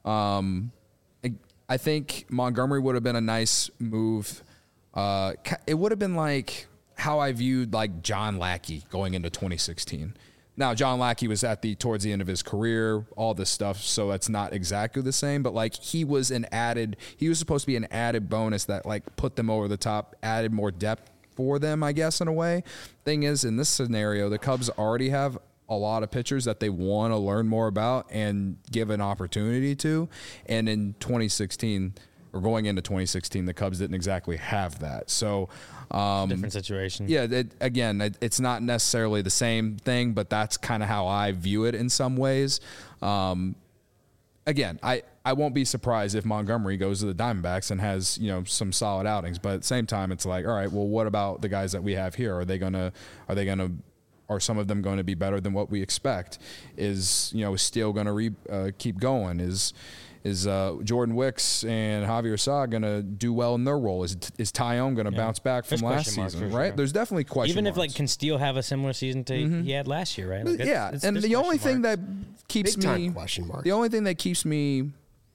um, I, I think Montgomery would have been a nice move. Uh, it would have been like how I viewed like John Lackey going into twenty sixteen. Now, John Lackey was at the towards the end of his career, all this stuff, so it's not exactly the same, but like he was an added, he was supposed to be an added bonus that like put them over the top, added more depth for them, I guess, in a way. Thing is, in this scenario, the Cubs already have a lot of pitchers that they want to learn more about and give an opportunity to. And in twenty sixteen, or going into twenty sixteen, the Cubs didn't exactly have that. So, um, different situation. Yeah, it, again, it, it's not necessarily the same thing, but that's kind of how I view it in some ways. Um, again, I, I won't be surprised if Montgomery goes to the Diamondbacks and has, you know, some solid outings. But at the same time, it's like, all right, well, what about the guys that we have here? Are they gonna, are they gonna, are some of them going to be better than what we expect? Is, you know, is Steele going to re, uh, keep going? Is is uh, Jordan Wicks and Javier Sa going to do well in their role? Is is Tyone going to yeah. bounce back from There's last season? Right? Sure. There's definitely question Even marks. if like can Steele have a similar season to mm-hmm. he had last year, right? Like it's, yeah, it's, and the only thing marks. that keeps Big time me question marks. the only thing that keeps me,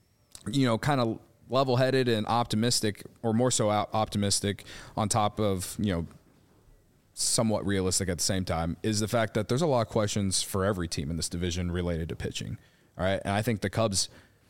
you know, kind of level-headed and optimistic, or more so optimistic, on top of, you know, somewhat realistic at the same time, is the fact that there's a lot of questions for every team in this division related to pitching. All right. And I think the Cubs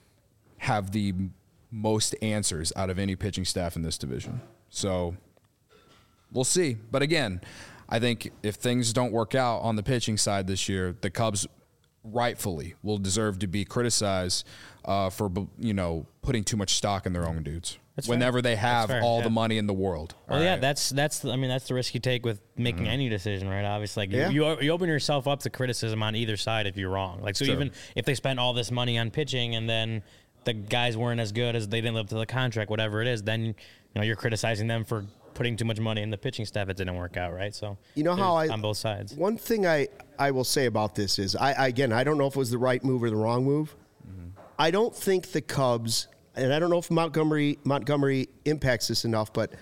have the most answers out of any pitching staff in this division. So we'll see. But again, I think if things don't work out on the pitching side this year, the Cubs rightfully will deserve to be criticized uh, for, you know, putting too much stock in their own dudes. That's whenever fair. They have all yeah. the money in the world. Well, all yeah, right? that's that's the, I mean that's the risk you take with making mm-hmm. any decision, right? Obviously, like yeah. you, you you open yourself up to criticism on either side if you're wrong. Like so, sure. even if they spent all this money on pitching and then the guys weren't as good as they didn't live up to the contract, whatever it is, then you know you're criticizing them for putting too much money in the pitching staff. It didn't work out, right? So you know how I on both sides. One thing I I will say about this is I, I again I don't know if it was the right move or the wrong move. Mm-hmm. I don't think the Cubs. And I don't know if Montgomery Montgomery impacts this enough, but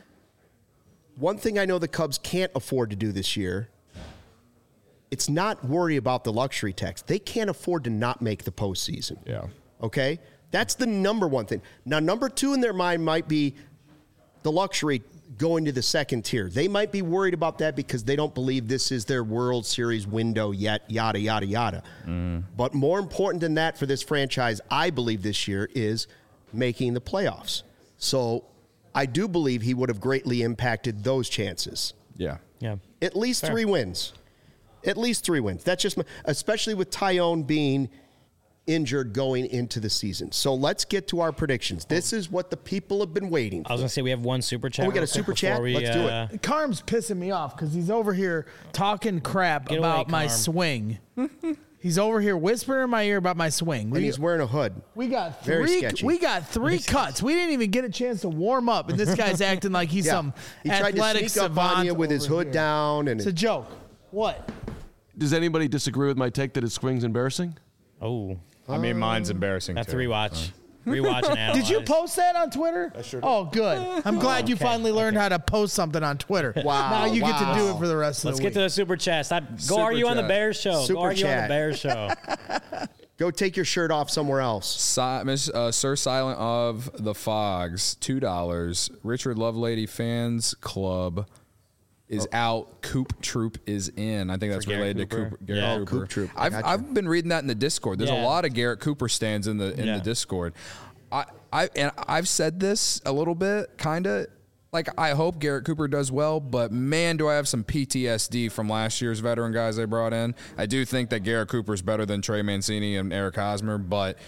one thing I know the Cubs can't afford to do this year, it's not worry about the luxury tax. They can't afford to not make the postseason. Yeah. Okay? That's the number one thing. Now, number two in their mind might be, the luxury going to the second tier. They might be worried about that because they don't believe this is their World Series window yet, yada, yada, yada. Mm. But more important than that for this franchise, I believe this year, is making the playoffs. So I do believe he would have greatly impacted those chances. Yeah. Yeah. At least Fair. three wins. At least three wins. That's just, my, especially with Tyone being injured going into the season. So let's get to our predictions. This is what the people have been waiting for. I was gonna say we have one super chat. Oh, we got a real quick super chat? before we, Let's do it. uh, Carm's pissing me off because he's over here talking crap Get about away, my Carm. swing. He's over here whispering in my ear about my swing. And We, he's wearing a hood. we got Very three. sketchy. We got three cuts. We didn't even get a chance to warm up, and this guy's acting like he's Yeah. some He tried to athletic sneak up savant on you with his over hood here. down. And It's a joke. What? Does anybody disagree with my take that his swing's embarrassing? Oh, I mean, mine's embarrassing. that's too. rewatch. Rewatch and analyze. Did you post that on Twitter? I sure did. Oh, good. I'm glad you okay, finally learned okay. how to post something on Twitter. Wow, Now you get to do wow. it for the rest of Let's the get week. to the super chat. Stop. Go Super argue on the chat. Bears show. Super Go argue on chat. the Bears show. Go take your shirt off somewhere else. Si- Miss uh, Sir Silent of the Fogs, two dollars. Richard Lovelady Fans Club is out. Coop Troop is in. I think that's For Garrett related Cooper? to Cooper, Garrett Yeah. Oh, Cooper. Coop Troop. I I've gotcha. I've been reading that in the Discord. There's Yeah. a lot of Garrett Cooper stands in the in Yeah. the Discord. I I and I've said this a little bit, kind of. Like, I hope Garrett Cooper does well, but man, do I have some P T S D from last year's veteran guys they brought in. I do think that Garrett Cooper's better than Trey Mancini and Eric Hosmer, but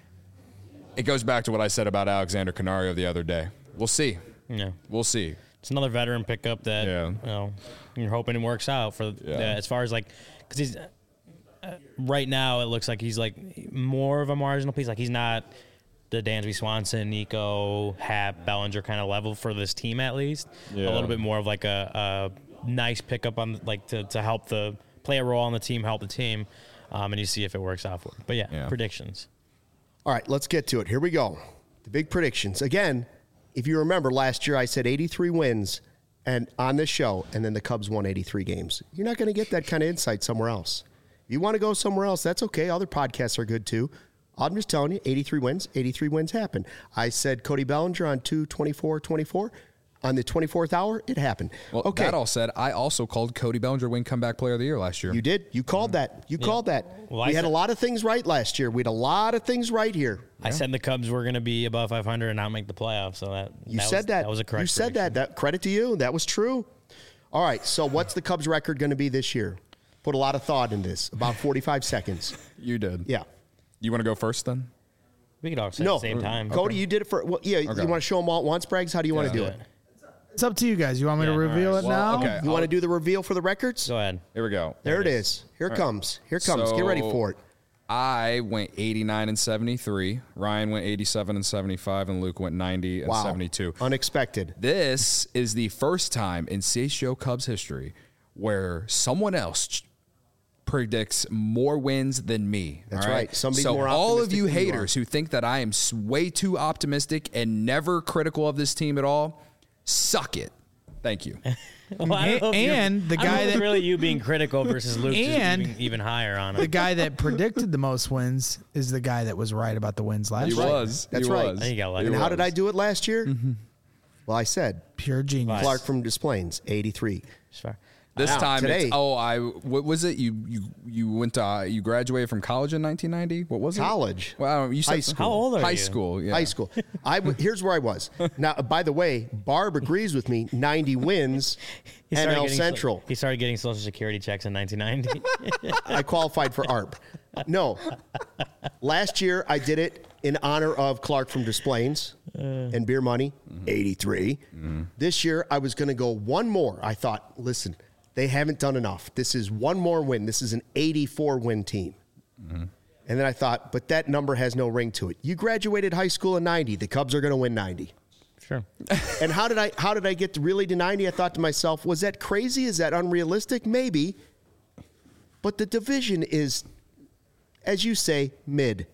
it goes back to what I said about Alexander Canario the other day. We'll see. Yeah. We'll see. It's another veteran pickup that Yeah. you know you're hoping it works out for Yeah. uh, as far as like because he's uh, right now it looks like he's like more of a marginal piece. Like he's not the Dansby Swanson, Nico, Hap, Bellinger kind of level for this team at least. Yeah. A little bit more of like a, a nice pickup on like to, to help the play a role on the team, help the team, um, and you see if it works out for him. But yeah, Yeah. predictions. All right, let's get to it. Here we go. The big predictions. Again, if you remember last year, I said eighty-three wins and on this show, and then the Cubs won eighty-three games. You're not going to get that kind of insight somewhere else. If you want to go somewhere else, that's okay. Other podcasts are good too. I'm just telling you, eighty-three wins, eighty-three wins happen. I said Cody Bellinger on two twenty-four twenty-four. On the twenty-fourth hour, it happened. Well, okay. that all said, I also called Cody Bellinger win comeback player of the year last year. You did. You called that. You called that. Well, I we had said- a lot of things right last year. We had a lot of things right here. I said the Cubs were going to be above five hundred and not make the playoffs. So that You that said was, that. That was a correct. You said that. prediction. That credit to you. That was true. All right. So what's the Cubs record going to be this year? Put a lot of thought in this. About forty-five seconds. You did. Yeah. You want to go first then? We could all say No. at the same time. Cody, you did it for. Well, yeah. You Okay. want to show them all at once, Braggs? How do you want to do Yeah. it? It's up to you guys. You want me Yeah, to reveal all it right. now? Well, okay. You want to do the reveal for the records? Go ahead. Here we go. There it is. Here it comes. Here it comes. Get ready So- for it. I went eighty-nine and seventy-three. Ryan went eighty-seven and seventy-five, and Luke went ninety and Wow. seventy-two. Unexpected. This is the first time in C H G O Cubs history where someone else ch- predicts more wins than me. That's all right. Somebody's so more all of optimistic you than you are. haters who think that I am s- way too optimistic and never critical of this team at all, suck it. Thank you. Well, I don't know if you're- And the I don't know guy if it's that- really you being critical versus Luke And- just being even higher on The it. guy that predicted the most wins is the guy that was right about the wins last He year. was. That's He right. was. I think you got lucky. And He how did was. I do it last year? Well, I said Pure genius. Clark from Des Plaines, eighty-three. Sure. This Now, time, today- it's, oh, I what was it? You you you went to uh, you graduated from college in nineteen ninety. What was it? College. Well, I don't know, you said High school. How old are high you? school. Yeah. High school. I w- here's where I was. Now, by the way, Barb agrees with me. ninety wins. He started N L getting so- Central. he started getting Social Security checks in nineteen ninety. I qualified for A R P. No. Last year, I did it in honor of Clark from Des Plaines and Beer Money, eighty-three. This year, I was going to go one more. I thought, listen, they haven't done enough. This is one more win. This is an eighty-four win team. And then I thought, but that number has no ring to it. You graduated high school in ninety. The Cubs are going to win ninety. Sure. And how did I how did I get to really to ninety? I thought to myself, was that crazy? Is that unrealistic? Maybe. But the division is, as you say, mid.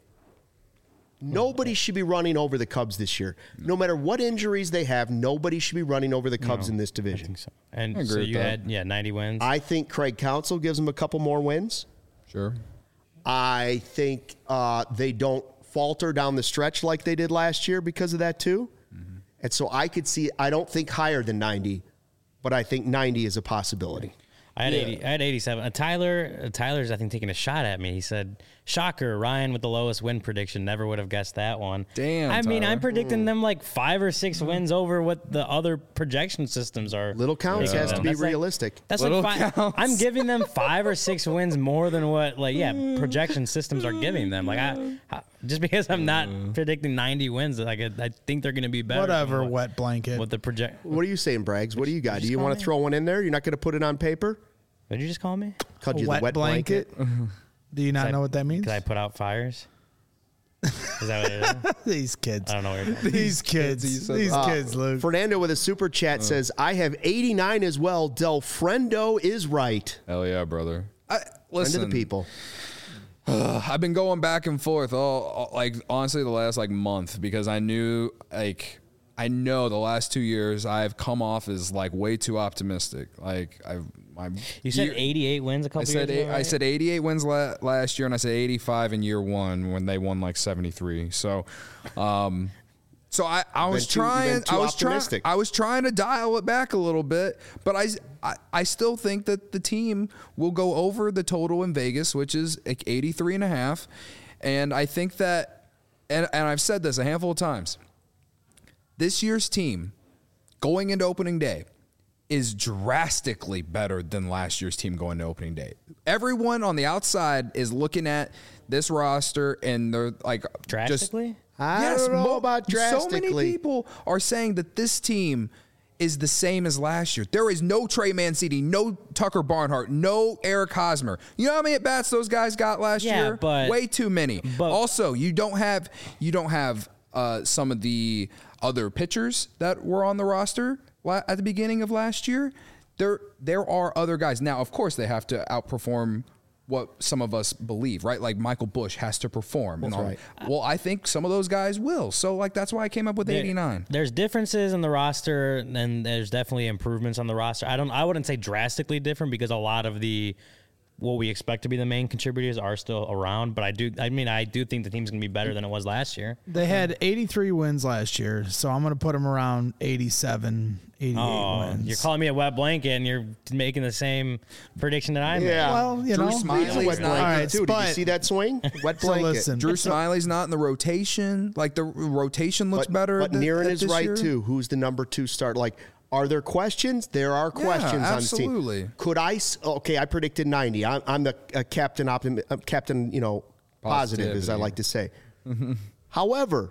Nobody should be running over the Cubs this year. No matter what injuries they have, nobody should be running over the Cubs in this division. So, and I agree so with you that. had yeah ninety wins. I think Craig Counsell gives them a couple more wins. Sure. I think uh, they don't falter down the stretch like they did last year because of that too. And so I could see, I don't think higher than ninety, but I think ninety is a possibility. I had Yeah. eighty. I had eighty-seven. Uh, Tyler, uh, Tyler's I think taking a shot at me. He said, "Shocker, Ryan with the lowest win prediction. Never would have guessed that one." Damn, I mean, Tyler. I'm predicting them like five or six wins over what the other projection systems are. Little counts giving has to them. be That's like- realistic. That's Little like five, counts. I'm giving them five or six wins more than what, like, yeah, projection systems are giving them. Like, I, I just because I'm not predicting ninety wins, like, I, I think they're going to be better. than Whatever, what, wet blanket. What the project? What are you saying, Braggs? What do you got? Do just you call want me? to throw one in there? You're not going to put it on paper? What did you just call me? Called A you wet the wet blanket. blanket. Do you not I- know what that means? Because I put out fires. Is that what it is? These kids. I don't know what you're talking These kids. he said These Uh, kids, Luke. Fernando with a super chat says, I have eighty-nine as well. Del Friendo is right. Hell yeah, brother. I, Friend listen, of the people. I've been going back and forth all, all like honestly the last like month because I knew like I know the last two years I've come off as like way too optimistic. Like I've my You said year- eighty-eight wins a couple I said years eight, ago, I right? said eighty-eight wins la- last year, and I said eighty-five in year one when they won like seventy-three. So, um, so I, I was been too- you've been trying too I was trying optimistic. I was trying to dial it back a little bit, but I, I I still think that the team will go over the total in Vegas, which is like eighty-three and a half, and I think that, and and I've said this a handful of times. This year's team, going into opening day, is drastically better than last year's team going to opening day. Everyone on the outside is looking at this roster and they're like Drastically? Just, I yes, don't know mo- about So drastically. many people are saying that this team is the same as last year. There is no Trey Mancini, no Tucker Barnhart, no Eric Hosmer. You know how many at bats those guys got last Yeah, year? but- Way too many. but- also, you don't have you don't have uh, some of the other pitchers that were on the roster la- at the beginning of last year. There there are other guys. Now, of course, they have to outperform what some of us believe, right? Like Michael Bush has to perform. and all. right. Well, I think some of those guys will. So, like, that's why I came up with There- eighty-nine. There's differences in the roster, and there's definitely improvements on the roster. I don't. I wouldn't say drastically different because a lot of the what we expect to be the main contributors are still around. But I do. I mean, I do think the team's gonna be better than it was last year. They had eighty-three wins last year, so I'm going to put them around eighty-seven, eighty-eight Oh, wins. you're calling me a wet blanket, and you're making the same prediction that I made. Yeah. Well, you Drew know. Smiley's It's a wet not- blanket, All right, too. Did you but- see that swing? Wet So blanket. listen, Drew Smiley's not in the rotation. Like, the rotation looks but, better. But th- Niren at is this right, year. too. Who's the number two start? Like, are there questions? There are Yeah, questions on this team. absolutely. Could I? s- Okay, I predicted ninety. I'm, I'm the uh, captain, optimi- uh, captain. You know, positive, as I Positivity. like to say. However,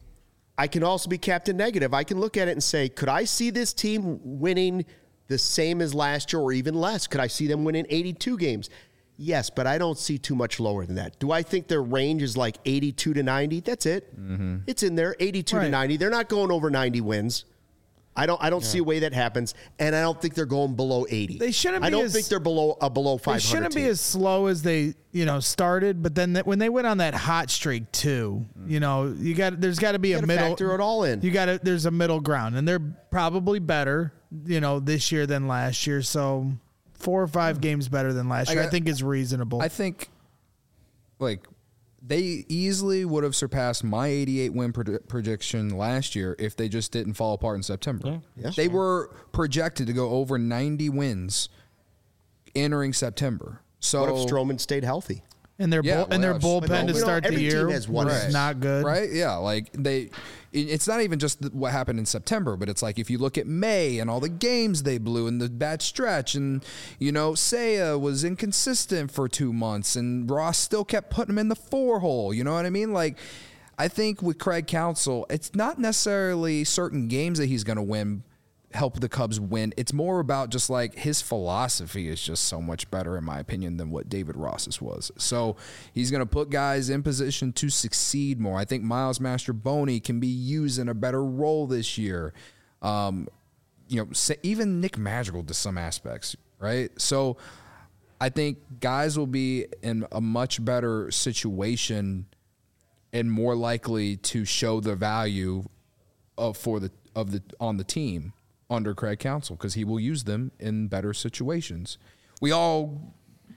I can also be captain negative. I can look at it and say, could I see this team winning the same as last year or even less? Could I see them winning eighty-two games? Yes, but I don't see too much lower than that. Do I think their range is like eighty-two to ninety? That's it. Mm-hmm. It's in there, eighty-two to Right. ninety. They're not going over ninety wins. I don't. I don't see a way that happens, and I don't think they're going below eighty. They shouldn't I be don't as- think they're below a below five They hundred. shouldn't be team. as slow as they, you know, started. But then th- when they went on that hot streak too, you know, you got there's got to be a gotta middle. factor it all in. You got to there's a middle ground, and they're probably better, you know, this year than last year. So four or five games better than last year, I, got- think is reasonable. I think, like, they easily would have surpassed my eighty-eight win pred- prediction last year if they just didn't fall apart in September. Yeah. They were projected to go over ninety wins entering September. So What if Stroman stayed healthy? and their Yeah, bull, and their well, yeah, bullpen but to you know, start the every team year has one was Right. not good. Right? Yeah. Like they, it- it's not even just what happened in September, but it's like if you look at May and all the games they blew and the bad stretch, and you know, Seiya was inconsistent for two months, and Ross still kept putting him in the four hole. You know what I mean? Like, I think with Craig Counsell, it's not necessarily certain games that he's going to win. Help the Cubs win. It's more about just like his philosophy is just so much better, in my opinion, than what David Ross's was. So he's going to put guys in position to succeed more. I think Miles Mastroboni can be used in a better role this year. Um, you know, sa- even Nick Madrigal to some aspects, right? So I think guys will be in a much better situation and more likely to show the value of for the of the on the team under Craig Counsell because he will use them in better situations. We all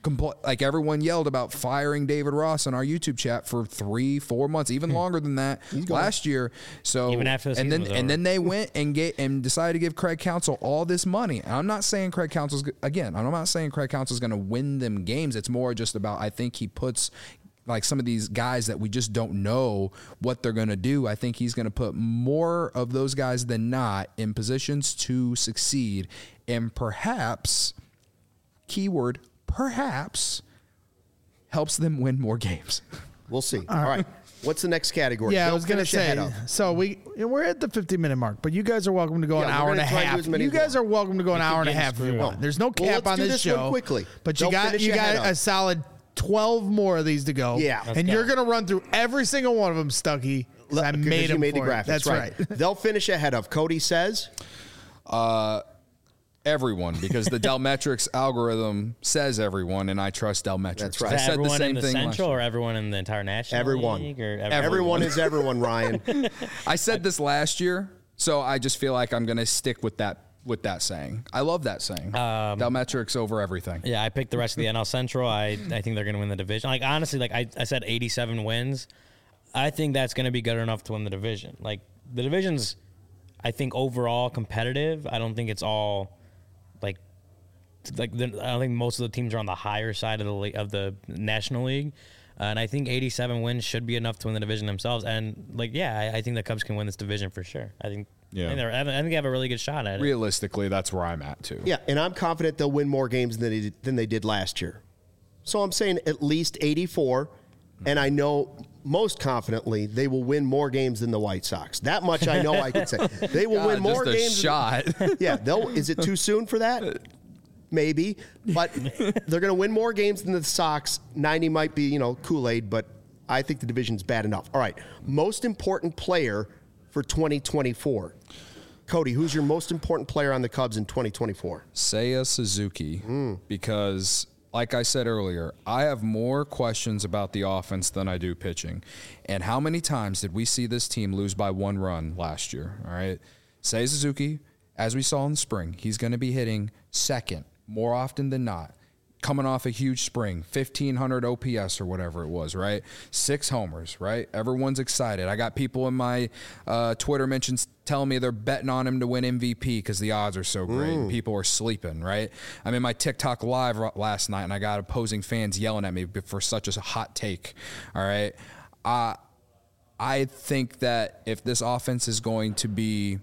compl- like everyone yelled about firing David Ross on our YouTube chat for three, four months, even longer than that last year. So Even after the and season then was and over. then they went and get and decided to give Craig Counsell all this money. And I'm not saying Craig Counsell's go- again. I'm not saying Craig Counsell's going to win them games. It's more just about I think he puts like some of these guys that we just don't know what they're going to do. I think he's going to put more of those guys than not in positions to succeed, and perhaps, keyword perhaps, helps them win more games. We'll see. All right. What's the next category? Yeah, I Don't was gonna finish ahead say. of. So we we're at the fifty minute mark, but you guys are welcome to go an Yeah, hour we're and a gonna try to do half. as many You as we guys are welcome to go an hour and a getting half if you screwed. want. There's no Well, cap let's on do this this one show. quickly. But you Don't got finish you your head got up. a solid twelve more of these to go. Yeah. Let's and go. you're gonna run through every single one of them, Stucky. 'cause I Because made you them made the for you. graphics. That's right. They'll finish ahead of. Cody says. Everyone, because the Delmetrics algorithm says everyone, and I trust Delmetrics. That's right. I Is that said the everyone same in the thing last Central year. or everyone in the entire National Everyone. League? Or Everyone, everyone? is everyone, Ryan. I said this last year, so I just feel like I'm going to stick with that with that saying. I love that saying. Um, Delmetrics over everything. Yeah, I picked the rest of the N L Central. I, I think they're going to win the division. Like, honestly, like I, I said eighty-seven wins. I think that's going to be good enough to win the division. Like, the division's, I think, overall competitive. I don't think it's all, like, like the, I don't think most of the teams are on the higher side of the le- of the National League. Uh, and I think eighty-seven wins should be enough to win the division themselves. And, like, yeah, I, I think the Cubs can win this division for sure. I think, Yeah. I think, they're- I think they have a really good shot at it. Realistically, that's where I'm at too. Yeah, and I'm confident they'll win more games than they did, than they did last year. So I'm saying at least eighty-four, and I know most confidently they will win more games than the White Sox. That much I know I can say. They will God, win more just a games. shot. Yeah, they'll. Is it too soon for that? Maybe, but they're going to win more games than the Sox. ninety might be, you know, Kool-Aid, but I think the division's bad enough. All right, most important player for twenty twenty-four. Cody, who's your most important player on the Cubs in twenty twenty-four? Seiya Suzuki, Mm. because like I said earlier, I have more questions about the offense than I do pitching. And how many times did we see this team lose by one run last year? All right. Seiya Suzuki, as we saw in the spring, he's going to be hitting second more often than not. Coming off a huge spring, fifteen hundred O P S or whatever it was, right? Six homers, right? Everyone's excited. I got people in my uh, Twitter mentions telling me they're betting on him to win M V P because the odds are so great. And people are sleeping, right? I'm in my TikTok live r- last night, and I got opposing fans yelling at me for such a hot take, all right? Uh, I think that if this offense is going to be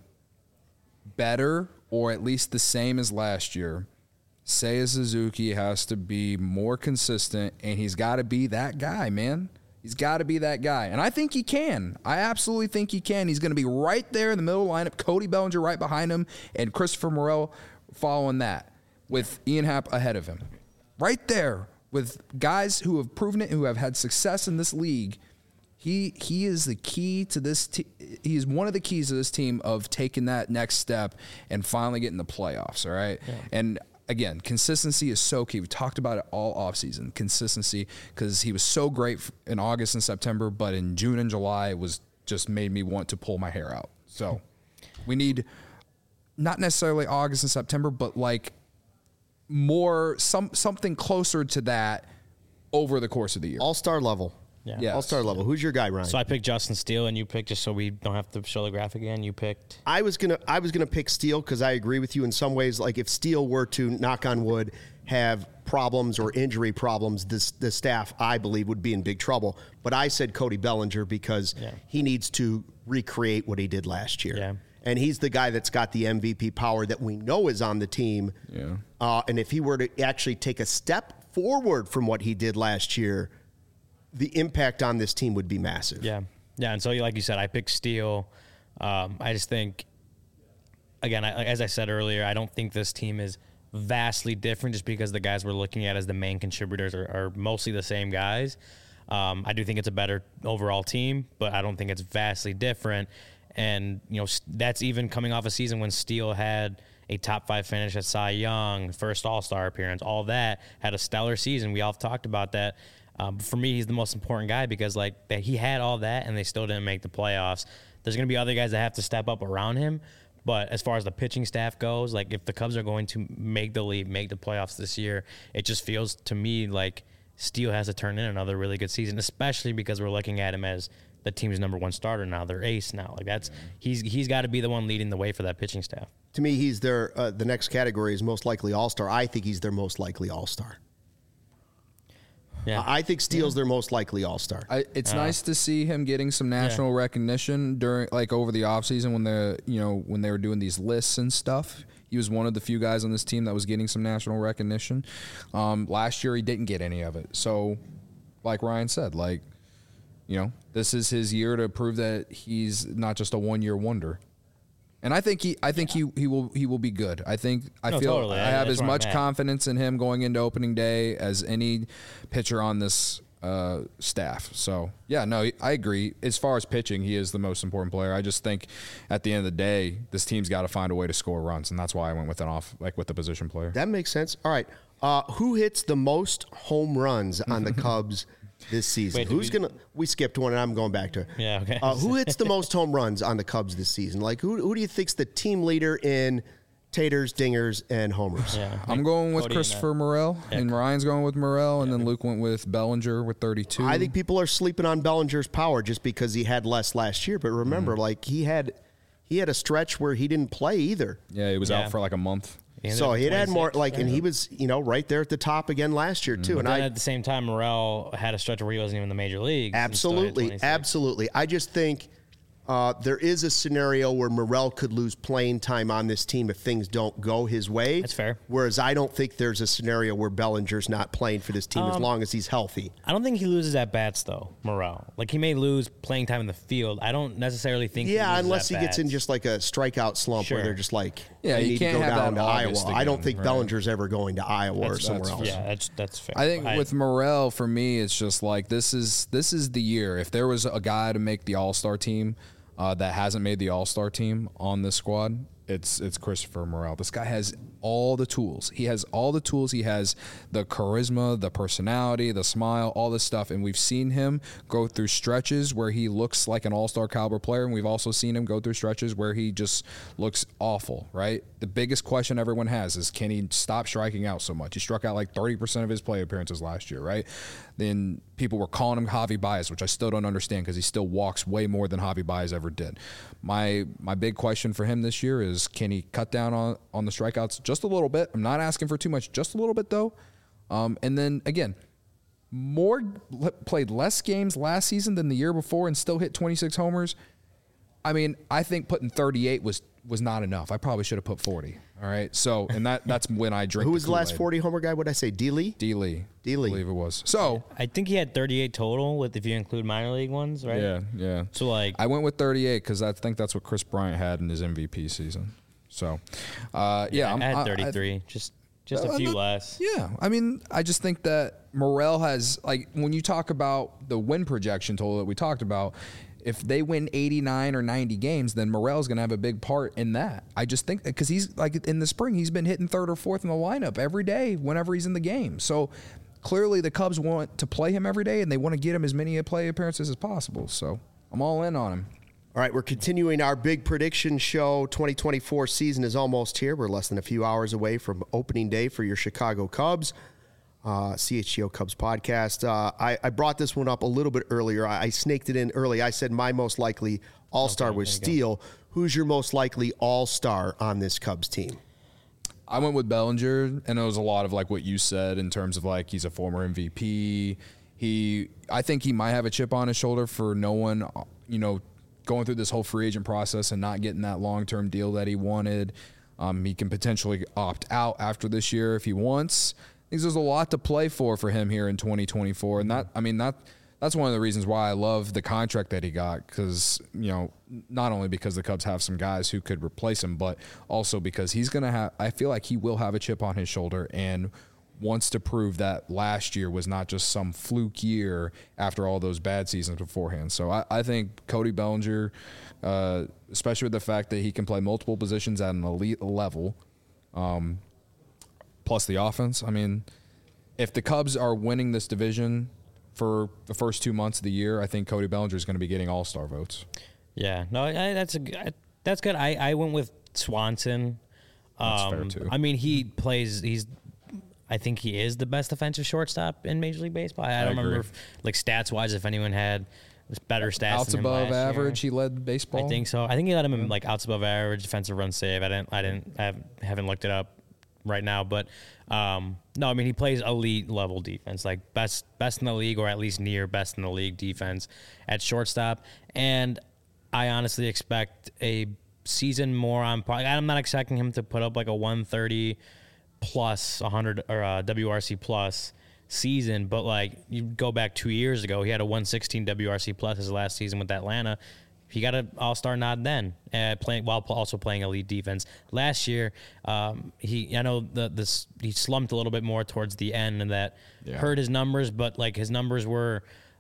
better or at least the same as last year, Seiya Suzuki has to be more consistent, and he's got to be that guy, man. He's got to be that guy. And I think he can. I absolutely think he can. He's going to be right there in the middle of the lineup, Cody Bellinger right behind him, and Christopher Morel following that with Ian Happ ahead of him. Right there with guys who have proven it, who have had success in this league. He he is the key to this. Te- he's one of the keys to this team of taking that next step and finally getting the playoffs. All right, yeah. And again, consistency is so key. We talked about it all offseason. Consistency, because he was so great in August and September, but in June and July, it was just made me want to pull my hair out. So we need not necessarily August and September, but like more some something closer to that over the course of the year. All-star level. Yeah. Yes. All-star level. Who's your guy, Ryan? So I picked Justin Steele, and you picked, just so we don't have to show the graphic again, you picked. I was gonna I was gonna pick Steele because I agree with you in some ways. Like if Steele were to, knock on wood, have problems or injury problems, this the staff I believe would be in big trouble. But I said Cody Bellinger because Yeah. he needs to recreate what he did last year. Yeah. And he's the guy that's got the M V P power that we know is on the team. Yeah. Uh, and if he were to actually take a step forward from what he did last year, the impact on this team would be massive. Yeah. Yeah. And so, like you said, I picked Steele. Um, I just think, again, I, as I said earlier, I don't think this team is vastly different just because the guys we're looking at as the main contributors are, are mostly the same guys. Um, I do think it's a better overall team, but I don't think it's vastly different. And, you know, that's even coming off a season when Steele had a top five finish at Cy Young, first All-Star appearance, all that, had a stellar season. We all talked about that. Um, for me, he's the most important guy because, like, that he had all that and they still didn't make the playoffs. There's going to be other guys that have to step up around him, But as far as the pitching staff goes, like if the Cubs are going to make the league, make the playoffs this year, it just feels to me like Steele has to turn in another really good season, especially because we're looking at him as the team's number one starter now, their ace now. Like that's he's he's got to be the one leading the way for that pitching staff. To me, he's their uh, the next category is most likely all-star. I think he's their most likely all-star. Yeah, I think Steele's their most likely all-star. I, it's Uh, nice to see him getting some national Yeah. recognition during, like, over the offseason when the you know when they were doing these lists and stuff. He was one of the few guys on this team that was getting some national recognition. Um, last year, he didn't get any of it. So, like Ryan said, like, you know, this is his year to prove that he's not just a one-year wonder. And I think he, I think he, he will, he will be good. I think I No, feel totally. I have That's as where I'm much at. confidence in him going into opening day as any pitcher on this uh, staff. So yeah, no, I agree. As far as pitching, he is the most important player. I just think at the end of the day, this team's got to find a way to score runs, and that's why I went with an off, like with the position player. That makes sense. All right. Uh, who hits the most home runs on the Cubs this season? Wait, did Who's we- gonna? We skipped one, and I'm going back to it. Yeah, okay. Uh, who hits the most home runs on the Cubs this season? Like who? Who do you think's the team leader in taters, dingers, and homers? yeah. I'm going with Cody and, uh, Christopher Morel, and Ryan's going with Morel, and then Luke went with Bellinger with thirty-two. I think people are sleeping on Bellinger's power just because he had less last year. But remember, Mm-hmm. like he had, he had a stretch where he didn't play either. yeah, he was Yeah. out for like a month. He ended So up he had had more twenty-six, like, and yeah. he was, you know, right there at the top again last year too. And Then I at the same time, Morel had a stretch where he wasn't even in the major leagues. and still hit absolutely, twenty-six. absolutely. I just think uh, there is a scenario where Morel could lose playing time on this team if things don't go his way. That's fair. Whereas I don't think there's a scenario where Bellinger's not playing for this team as Um, long as he's healthy. I don't think he loses at bats though, Morel. Like he may lose playing time in the field. I don't necessarily think. he Yeah, loses unless he at gets in bats. just like a strikeout slump Sure. where they're just like, Yeah, they you need can't to go have down that to August Iowa. I don't again, think right. Bellinger's ever going to Iowa or That's- somewhere that's else. Yeah, that's that's fair. I think with Morel, for me, it's just like this is this is the year. If there was a guy to make the All Star team uh, that hasn't made the All Star team on this squad, it's it's Christopher Morel. This guy has all the tools. He has all the tools. He has the charisma, the personality, the smile, all this stuff. And we've seen him go through stretches where he looks like an all-star caliber player. And we've also seen him go through stretches where he just looks awful, right? The biggest question everyone has is, can he stop striking out so much? He struck out like thirty percent of his play appearances last year, right? Then people were calling him Javi Baez, which I still don't understand because he still walks way more than Javi Baez ever did. My my big question for him this year is, can he cut down on, on the strikeouts just a little bit? I'm not asking for too much, just a little bit though. Um, and then again, more played less games last season than the year before and still hit twenty-six homers. I mean, I think putting thirty-eight was was not enough. I probably should have put forty. All right. So, and that that's when I drink. Who was the last Kool-Aid. forty homer guy? What did I say? D. Lee? D. Lee. D. Lee. I believe it was. So, I think he had thirty-eight total with if you include minor league ones, right? yeah, yeah. So like, I went with thirty-eight because I think that's what Chris Bryant had in his M V P season. So, uh, yeah, I'm, I had I- I- thirty-three, just just Uh, a few not- less. Yeah, I mean, I just think that Morel has, like, when you talk about the win projection total that we talked about, if they win eighty-nine or ninety games, then Morel's going to have a big part in that. I just think because he's, like, in the spring, he's been hitting third or fourth in the lineup every day whenever he's in the game. So clearly the Cubs want to play him every day, and they want to get him as many play appearances as possible. So I'm all in on him. All right, we're continuing our big prediction show. twenty twenty-four season is almost here. We're less than a few hours away from opening day for your Chicago Cubs. Uh, C H G O Cubs podcast. Uh, I, I brought this one up a little bit earlier. I, I snaked it in early. I said my most likely all-star Okay, was there you Steele. Who's your most likely all-star on this Cubs team? I went with Bellinger, and it was a lot of like what you said in terms of like he's a former M V P. He, I think he might have a chip on his shoulder for no one, you know, going through this whole free agent process and not getting that long-term deal that he wanted. Um, he can potentially opt out after this year if he wants. I think there's a lot to play for for him here in twenty twenty-four, and that, I mean, that that's one of the reasons why I love the contract that he got, because, you know, not only because the Cubs have some guys who could replace him, but also because he's going to have, I feel like he will have a chip on his shoulder and wants to prove that last year was not just some fluke year after all those bad seasons beforehand. So I, I think Cody Bellinger, uh, especially with the fact that he can play multiple positions at an elite level, um, plus the offense. I mean, if the Cubs are winning this division for the first two months of the year, I think Cody Bellinger is going to be getting all-star votes. Yeah, no, I, that's a g- I- that's good. I, I went with Swanson. That's um, fair, too. I mean, he plays. He's. I think he is the best defensive shortstop in Major League Baseball. I, I don't agree. remember, if, like stats wise, if anyone had better stats. Outs than him above last average, year. he led baseball. I think so. I think he led him in like outs above average, defensive run save. I didn't. I didn't. I haven't- haven't looked it up right now, but um, no. I mean, he plays elite level defense, like best best in the league, or at least near best in the league defense at shortstop. And I honestly expect a season more on. I'm not expecting him to put up like a one thirty plus one hundred or a W R C plus season, but like you go back two years ago, he had a one sixteen W R C plus his last season with Atlanta. He got an all-star nod then, uh, playing while also playing elite defense. Last year, um, he I know the this he slumped a little bit more towards the end, and that Yeah. hurt his numbers. But like his numbers were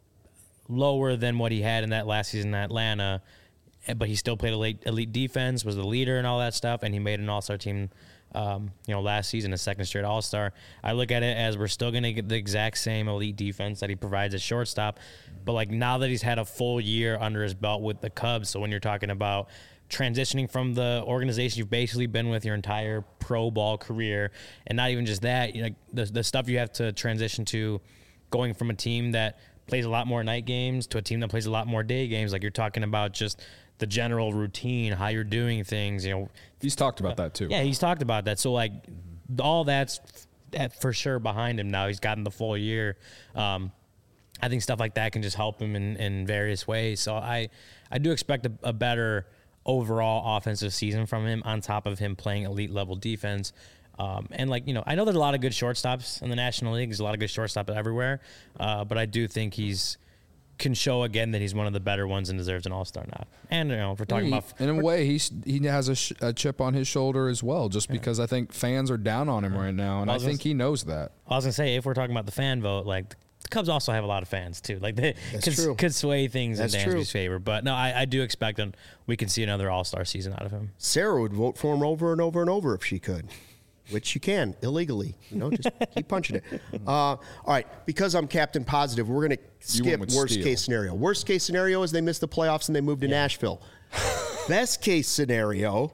lower than what he had in that last season in Atlanta. But he still played elite, elite defense, was the leader and all that stuff, and he made an all-star team. Um, you know, last season, a second straight All-Star. I look at it as we're still going to get the exact same elite defense that he provides at shortstop. But, like, now that he's had a full year under his belt with the Cubs, so when you're talking about transitioning from the organization you've basically been with your entire pro ball career, and not even just that, you know, the, the stuff you have to transition to going from a team that plays a lot more night games to a team that plays a lot more day games, like you're talking about just the general routine, how you're doing things, you know. He's talked about that too. Yeah, he's talked about that. So, like, all that's f- for sure behind him now. He's gotten the full year. Um, I think stuff like that can just help him in, in various ways. So, I, I do expect a, a better overall offensive season from him on top of him playing elite level defense. Um, and, like, you know, I know there's a lot of good shortstops in the National League. There's a lot of good shortstops everywhere. Uh, but I do think he's can show again that he's one of the better ones and deserves an all-star nod. And, you know, if we're talking He- about in a way, he's he has a, sh- a chip on his shoulder as well, just because I think fans are down on him right now, and I I was think gonna- he knows that. I was gonna say, if we're talking about the fan vote, like the Cubs also have a lot of fans too. Like they That's could, true. could sway things That's in true. Dansby's favor. But no, I, I do expect that we can see another All Star season out of him. Sarah would vote for him over and over and over if she could, which you can illegally. You know, just keep punching it. Uh, all right, because I'm Captain Positive, we're going to skip with worst Steele. case scenario. Worst case scenario is they miss the playoffs and they move to Nashville. Best case scenario,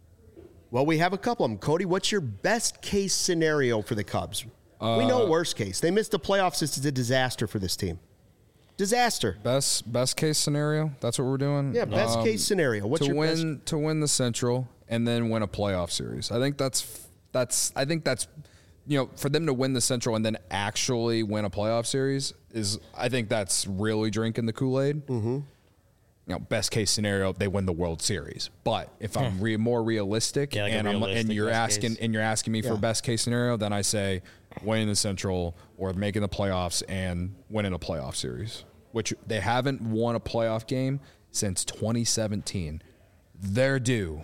well, we have a couple of them. Cody, what's your best case scenario for the Cubs? we know worst case. They missed the playoffs. This is a disaster for this team. Disaster. Best best case scenario. That's what we're doing. Yeah, best Um, case scenario. What's to your win best? to win the Central and then win a playoff series. I think that's that's I think that's you know for them to win the Central and then actually win a playoff series is I think that's really drinking the Kool-Aid. Mm-hmm. You know, best case scenario they win the World Series. But if I'm re- more realistic, Yeah, like a and I'm, and realistic you're best asking case. and you're asking me Yeah. for best case scenario, then I say winning the Central or making the playoffs and winning a playoff series, which they haven't won a playoff game since twenty seventeen. They're due.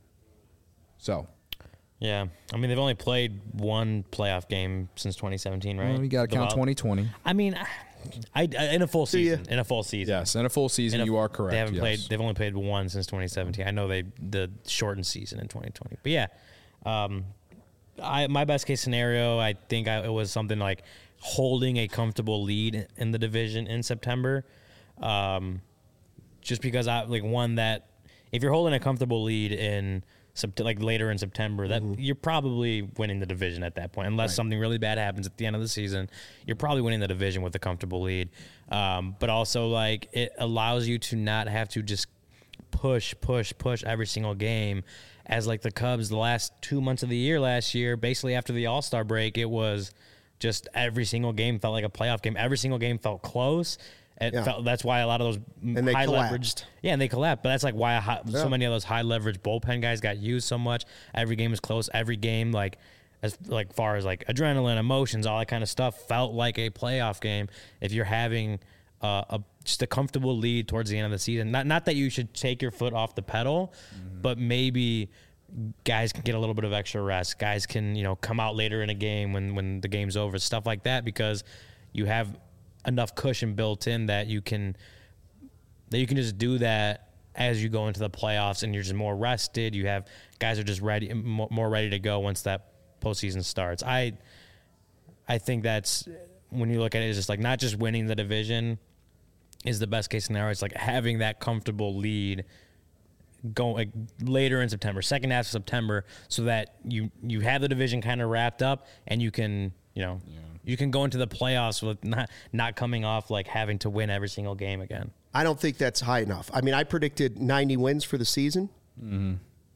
So, Yeah, I mean they've only played one playoff game since twenty seventeen, right? well, you got to The count Wild- twenty twenty. I mean, I, I in a full Do you? season. In a full season. Yes, in a full season, In a- you are correct. They haven't yes. played. They've only played one since twenty seventeen. I know they the shortened season in twenty twenty. But yeah, um, I my best case scenario, I think I, it was something like holding a comfortable lead in the division in September. Um, just because I like one that if you're holding a comfortable lead in Sept- like later in September, that you're probably winning the division at that point, unless something really bad happens at the end of the season. You're probably winning the division with a comfortable lead. Um, but also, like, it allows you to not have to just push, push, push every single game. As like the Cubs, the last two months of the year last year, basically after the All Star break, it was just every single game felt like a playoff game. Every single game felt close. It Yeah. felt, that's why a lot of those And they high collapsed. leveraged. Yeah, and they collapsed. But that's like why a high, Yeah. so many of those high leverage bullpen guys got used so much. Every game was close. Every game, like as like far as like adrenaline, emotions, all that kind of stuff, felt like a playoff game. If you're having uh, a just a comfortable lead towards the end of the season, not not that you should take your foot off the pedal, but maybe guys can get a little bit of extra rest. Guys can you know come out later in a game when when the game's over, stuff like that, because you have enough cushion built in that you can that you can just do that as you go into the playoffs and you're just more rested. You have guys are just ready, mo- more ready to go once that postseason starts. I I think that's when you look at it, it's just like not just winning the division is the best case scenario. It's like having that comfortable lead go like later in September, second half of September, so that you you have the division kind of wrapped up and you can you know yeah. you can go into the playoffs with not not coming off like having to win every single game again. I don't think that's high enough. I mean, I predicted ninety wins for the season. Mm-hmm.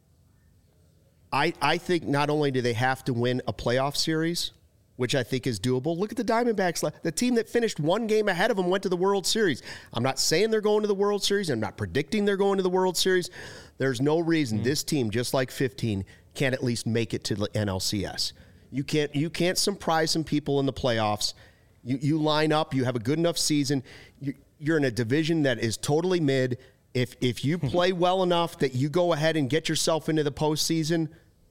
I I think not only do they have to win a playoff series, which I think is doable. Look at the Diamondbacks. The team that finished one game ahead of them went to the World Series. I'm not saying they're going to the World Series. I'm not predicting they're going to the World Series. There's no reason mm-hmm. this team, just like fifteen, can't at least make it to the N L C S. You can't you can't surprise some people in the playoffs. You you line up. You have a good enough season. You, you're in a division that is totally mid. If if you play well enough that you go ahead and get yourself into the postseason,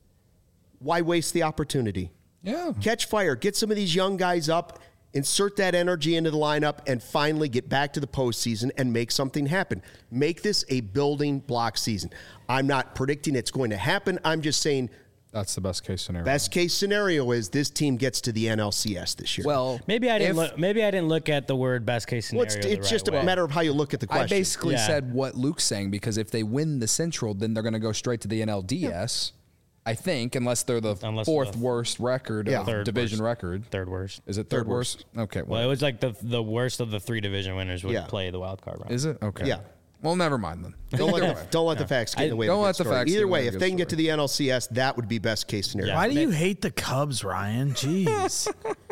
why waste the opportunity? Yeah. Catch fire. Get some of these young guys up, insert that energy into the lineup, and finally get back to the postseason and make something happen. Make this a building block season. I'm not predicting it's going to happen. I'm just saying that's the best case scenario. Best case scenario is this team gets to the N L C S this year. Well, maybe I didn't if, look. Maybe I didn't look at the word best case scenario. Well, it's it's the just right a way. matter of how you look at the question. I basically yeah. said what Luke's saying, because if they win the Central, then they're going to go straight to the N L D S. Yeah. I think, unless they're the unless fourth the worst record, yeah. of third division worst. record. Third worst. Is it third, third worst? worst? Okay. Well, well, it was like the the worst of the three division winners would yeah. play the wild card round. Is it? Okay. Yeah. Well, never mind then. Don't let the, don't let the facts get in the way. Don't of let the story. facts. Either way, if they story. can get to the N L C S, that would be best case scenario. Yeah. Why do you hate the Cubs, Ryan? Jeez.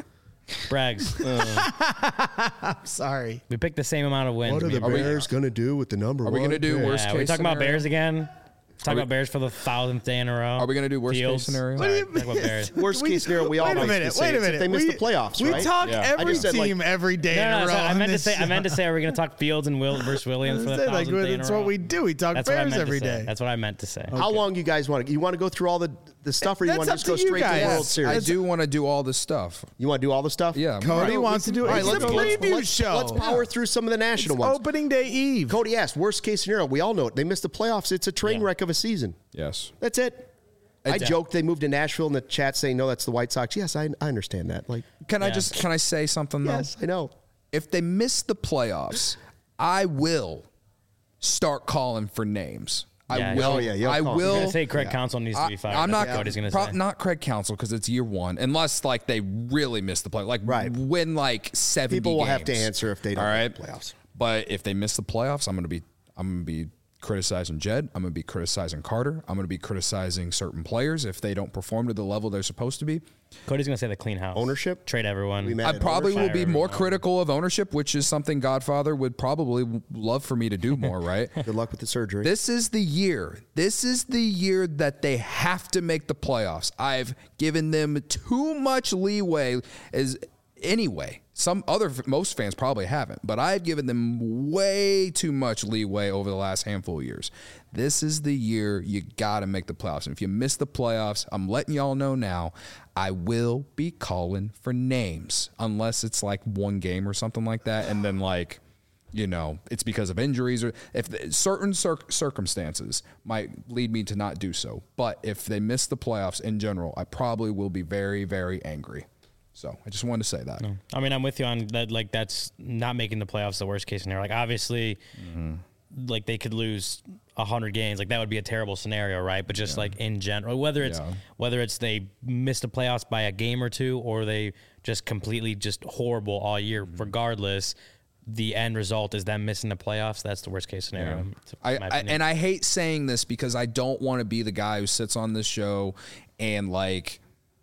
Brags. Uh, I'm sorry. We picked the same amount of wins. What are the Bears going to do with the number Are one? we going to do pick? worst yeah, case Are we talking scenario? about Bears again? Talk we, about Bears for the thousandth day in a row. Are we going to do worst Fields? case scenario? What do you Talk about Bears. Worst we, case scenario, we wait all a like minute, to wait say a it's minute. if they miss we, the playoffs, we right? talk Yeah. every I just said, team like, every day No, in no, a no row. so I on meant to this say. I show. meant to say. Are we going to talk Fields and Will versus Williams for the Say, like, thousandth day in a that's row? what we do. We talk That's what I Bears meant every to say. day. That's what I meant to say. How long you guys want to? You want to go through all the, the stuff, or you That's want to up just to go you straight to guys. the World Yes, Series? I do want to do all this stuff. You want to do all the stuff? Yeah. Cody All wants to do it. All right, It's let's, the let's, preview let's, show. let's power through some of the national It's ones. opening day eve. Cody asked, worst case scenario. We all know it. They missed the playoffs. It's a train Yeah. wreck of a season. Yes. That's it. I It's- joked they moved to Nashville in the chat saying, no, that's the White Sox. Yes, I, I understand that. Like, Can I Yeah. just can I say something though? yes, I know. If they miss the playoffs, I will start calling for names. I Yeah, will. oh, yeah, you'll I call. I'm will. going to say Craig Counsell needs to be fired. I'm not. That's what he's going to pro- say. Not Craig Counsell because it's year one, unless like they really miss the play, like Right. win like seventy. People will have to games. answer if they don't All right. make the playoffs. But if they miss the playoffs, I'm going to be. I'm going to be criticizing Jed. I'm going to be criticizing Carter. I'm going to be criticizing certain players if they don't perform to the level they're supposed to be. Cody's going to say the clean house. Ownership? Trade everyone. We met I at probably will ownership. be more Everyone. critical of ownership, which is something Godfather would probably love for me to do more, right? Good luck with the surgery. This is the year. This is the year that they have to make the playoffs. I've given them too much leeway as anyway. Some other most fans probably haven't, but I've given them way too much leeway over the last handful of years. This is the year you got to make the playoffs. And if you miss the playoffs, I'm letting y'all know now, I will be calling for names unless it's like one game or something like that, and then like you know, it's because of injuries or if the, certain cir- circumstances might lead me to not do so. But if they miss the playoffs in general, I probably will be very, very angry. So I just wanted to say that. No. I mean, I'm with you on that. Like, that's not making the playoffs the worst case scenario. Like, obviously, mm-hmm. like they could lose a hundred games. Like that would be a terrible scenario, right? But just yeah. like in general, whether it's yeah. whether it's they missed the playoffs by a game or two, or they just completely just horrible all year, mm-hmm. regardless. The end result is them missing the playoffs. That's the worst case scenario. Yeah. I, I and I hate saying this because I don't want to be the guy who sits on this show and like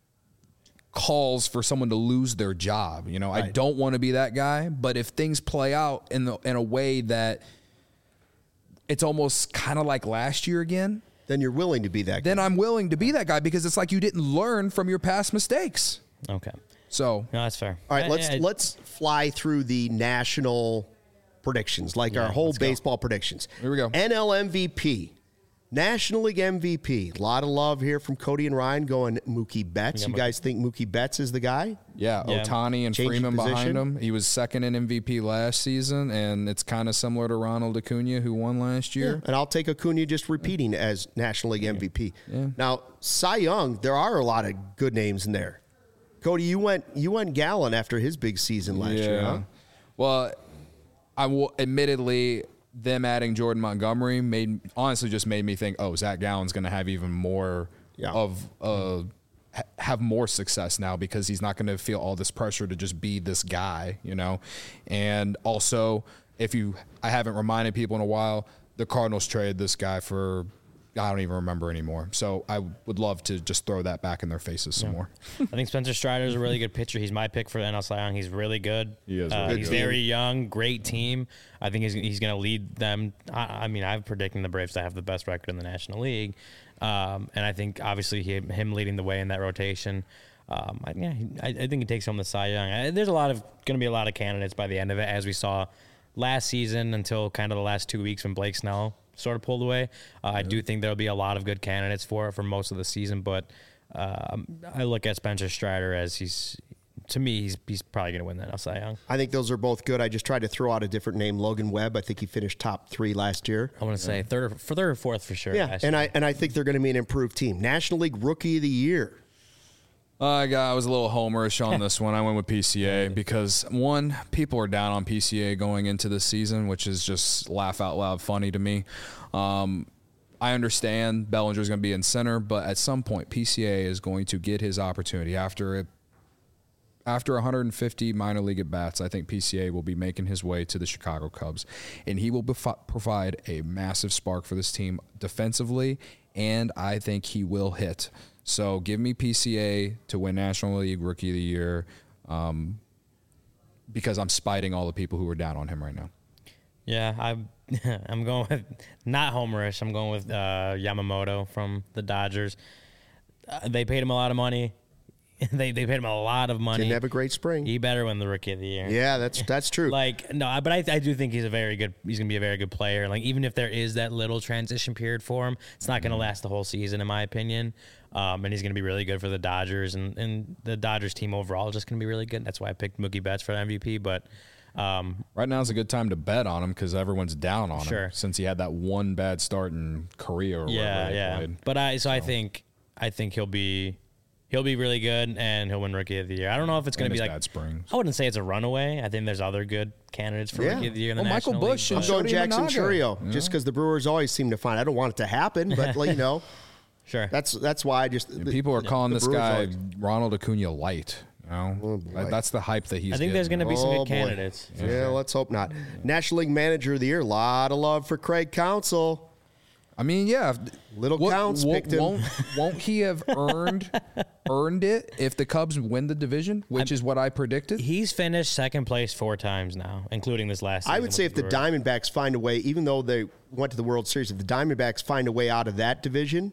calls for someone to lose their job. You know, right. I don't want to be that guy. But if things play out in the in a way that it's almost kind of like last year again, then you're willing to be that guy. Then I'm willing to be that guy because it's like you didn't learn from your past mistakes. Okay. So no, that's fair. All right, I, let's I, let's fly through the national predictions, like yeah, our whole baseball go. predictions. Here we go. N L M V P, National League M V P. A lot of love here from Cody and Ryan going Mookie Betts. You guys think Mookie Betts is the guy? Yeah, yeah. Ohtani and Changing Freeman position. behind him. He was second in M V P last season, and it's kind of similar to Ronald Acuna, who won last year. Yeah, and I'll take Acuna just repeating as National League M V P. Yeah. Now, Cy Young, there are a lot of good names in there. Cody, you went you went Gallen after his big season last yeah. year, huh? Well, I will admittedly them adding Jordan Montgomery made honestly just made me think, oh, Zach Gallen's going to have even more Yeah. of uh, ha- have more success now because he's not going to feel all this pressure to just be this guy, you know. And also, if you, I haven't reminded people in a while, the Cardinals traded this guy for, I don't even remember anymore. So I would love to just throw that back in their faces some Yeah. more. I think Spencer Strider is a really good pitcher. He's my pick for the N L Cy Young. He's really good. He is Uh, really he's good. very young, great team. I think he's he's going to lead them. I, I mean, I'm predicting the Braves to have the best record in the National League, um, and I think obviously he, him leading the way in that rotation. Um, I, yeah, he, I, I think he takes home the Cy Young. I, there's a lot of going to be a lot of candidates by the end of it, as we saw last season until kind of the last two weeks when Blake Snell sort of pulled away. Uh, I do think there'll be a lot of good candidates for it for most of the season, but um, I look at Spencer Strider as he's, to me, he's he's probably going to win that Cy Young. I think those are both good. I just tried to throw out a different name, Logan Webb. I think he finished top three last year. I want to say third, or, for third or fourth for sure. Yeah, last and year. I and I think they're going to be an improved team. National League Rookie of the Year. I got, I was a little homerish on this one. I went with P C A because, one, people are down on P C A going into this season, which is just laugh out loud funny to me. Um, I understand Bellinger's going to be in center, but at some point, P C A is going to get his opportunity. After it, after one hundred fifty minor league at-bats, I think P C A will be making his way to the Chicago Cubs, and he will bef- provide a massive spark for this team defensively, and I think he will hit. So give me P C A to win National League Rookie of the Year um, because I'm spiting all the people who are down on him right now. Yeah, I'm I'm going with not homerish. I'm going with uh, Yamamoto from the Dodgers. Uh, they paid him a lot of money. they they paid him a lot of money. Didn't have a great spring. He better win the Rookie of the Year. Yeah, that's that's true. Like no, but I, I do think he's a very good. He's gonna be a very good player. Like even if there is that little transition period for him, it's not gonna last the whole season, in my opinion. Um, and he's gonna be really good for the Dodgers, and, and the Dodgers team overall is just gonna be really good. That's why I picked Mookie Betts for M V P. But um, Right now is a good time to bet on him because everyone's down on Sure. him since he had that one bad start in Korea or yeah, wherever they yeah. played. But I so, I think I think he'll be he'll be really good, and he'll win Rookie of the Year. I don't know if it's gonna And be his like bad springs. I wouldn't say it's a runaway. I think there's other good candidates for Yeah. Rookie of the Year in the Well, Michael National Busch League, and I'm but- going Shody Jackson Managa. Churio Yeah. just because the Brewers always seem to find. I don't want it to happen, but you know, Sure. that's that's why I just the, People are calling the this Brewers guy always- Ronald Acuna light. You know, Oh, boy. that's the hype that he's. I think there's getting. going to be some Oh, good boy. candidates. Yeah, let's hope not. National League Manager of the Year. A lot of love for Craig Counsell. I mean, yeah. Little What- Counts wo- picked him. Won't, won't he have earned earned it if the Cubs win the division, which is what I predicted? He's finished second place four times now, including this last season. I would say with if the Brewers. Diamondbacks find a way, even though they went to the World Series, if the Diamondbacks find a way out of that division,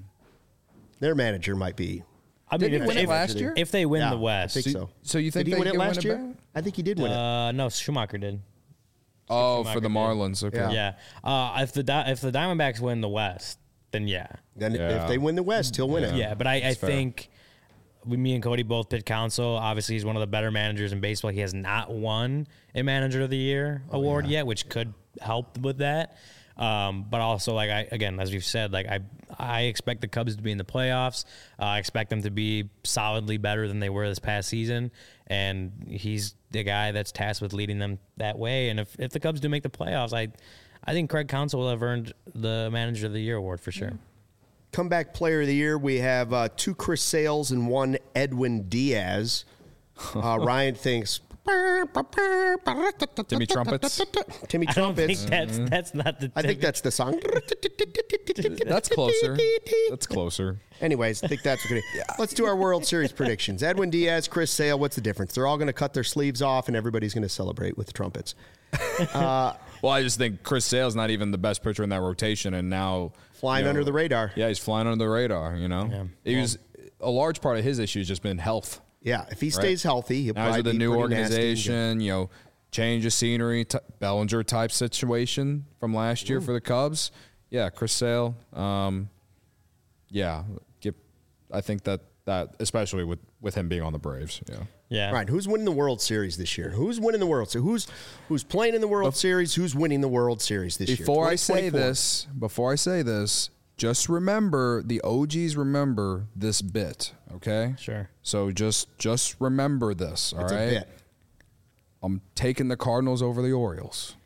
their manager might be. I mean, Didn't if, he win it if- last year? if they win Yeah, the West, I think so. So you think Did he they win it can last win year? back? I think he did win it. uh, no, Schumacher did. Oh, Schumacher for the did. Marlins. Okay. Yeah. Yeah, uh, if the Di- if the Diamondbacks win the West, then yeah, Then Yeah. if they win the West, he'll win it. yeah. But I, I fair. think we, me and Cody both picked Counsell. Obviously, he's one of the better managers in baseball. He has not won a Manager of the Year award yet, which could help with that. Um, but also, like I again, as we've said, like I I expect the Cubs to be in the playoffs. Uh, I expect them to be solidly better than they were this past season, and he's the guy that's tasked with leading them that way. And if, if the Cubs do make the playoffs, I I think Craig Counsell will have earned the Manager of the Year award for sure. Comeback Player of the Year, we have uh, two Chris Sales and one Edwin Diaz. Uh, Ryan thinks Timmy Trumpets. Timmy I don't think Trumpets. that's that's not the. I think that's the song. That's closer. That's closer. Anyways, I think that's what we're gonna. Let's do our World Series predictions. Edwin Diaz, Chris Sale. What's the difference? They're all going to cut their sleeves off, and everybody's going to celebrate with the trumpets. Well, I just think Chris Sale's not even the best pitcher in that rotation, and now Flying you know, under the radar. Yeah, he's flying under the radar. You know, Yeah. he was a large part of his issue has just been health. Yeah, if he stays healthy, he'll Now he's probably with a be new pretty nasty and good. organization. You know, change of scenery, t- Bellinger type situation from last year for the Cubs. Yeah, Chris Sale. Um, yeah, get, I think that that especially with with him being on the Braves. Yeah. Yeah. Right, who's winning the World Series this year? Who's winning the World Series? Who's who's playing in the World Series? Who's winning the World Series this year? Before I say twenty twenty-four. this, before I say this, just remember the O Gs remember this bit, okay? Sure. So just just remember this, all It's right? a bit. I'm taking the Cardinals over the Orioles.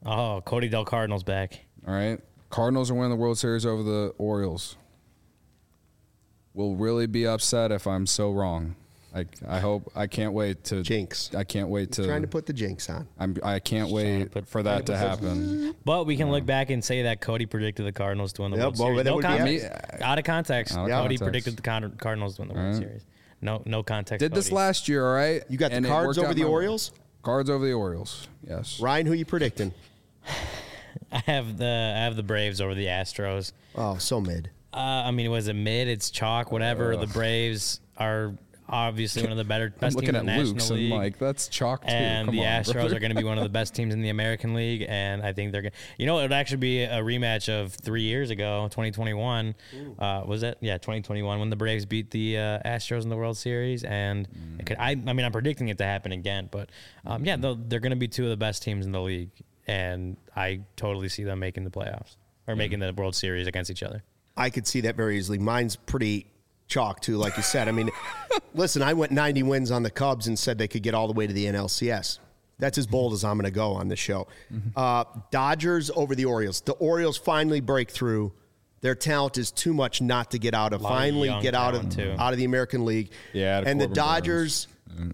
Oh, Cody Del Cardinal's back. All right. Cardinals are winning the World Series over the Orioles. Will really be upset if I'm so wrong. I, I hope I can't wait to Jinx. I can't wait to Trying to put the jinx on. I'm I can't wait put- for that to happen. But we can look back and say that Cody predicted the Cardinals to win the Yep, World well, Series. that No would be context. epic. Out of context. Out of Cody context. predicted the Con- Cardinals to win the World Right. Series. No, no context. Did this Cody. last year, all right? You got the And it Cards worked over out the my way. Orioles? Cards over the Orioles. Yes. Ryan, who you predicting? I have the I have the Braves over the Astros. Oh, so mid. Uh, I mean, was it mid? It's chalk, whatever. The Braves are obviously one of the better I'm best looking teams at in the National Luke's League. and like that's chalk too. and Come the on, Astros brother. are going to be one of the best teams in the American League, and I think they're going. to You know, it would actually be a rematch of three years ago, twenty twenty-one. Uh, was it? Yeah, twenty twenty-one when the Braves beat the uh, Astros in the World Series, and it could, I, I mean, I'm predicting it to happen again, but um, yeah, they'll- they're going to be two of the best teams in the league, and I totally see them making the playoffs or making the World Series against each other. I could see that very easily. Mine's pretty chalk, too, like you said. I mean, listen, I went ninety wins on the Cubs and said they could get all the way to the N L C S. That's as bold as I'm going to go on this show. Uh, Dodgers over the Orioles. The Orioles finally break through. Their talent is too much not to get out of. Lot of Finally young get out of talent, too. out of the American League. Yeah, the and the Corbin Dodgers,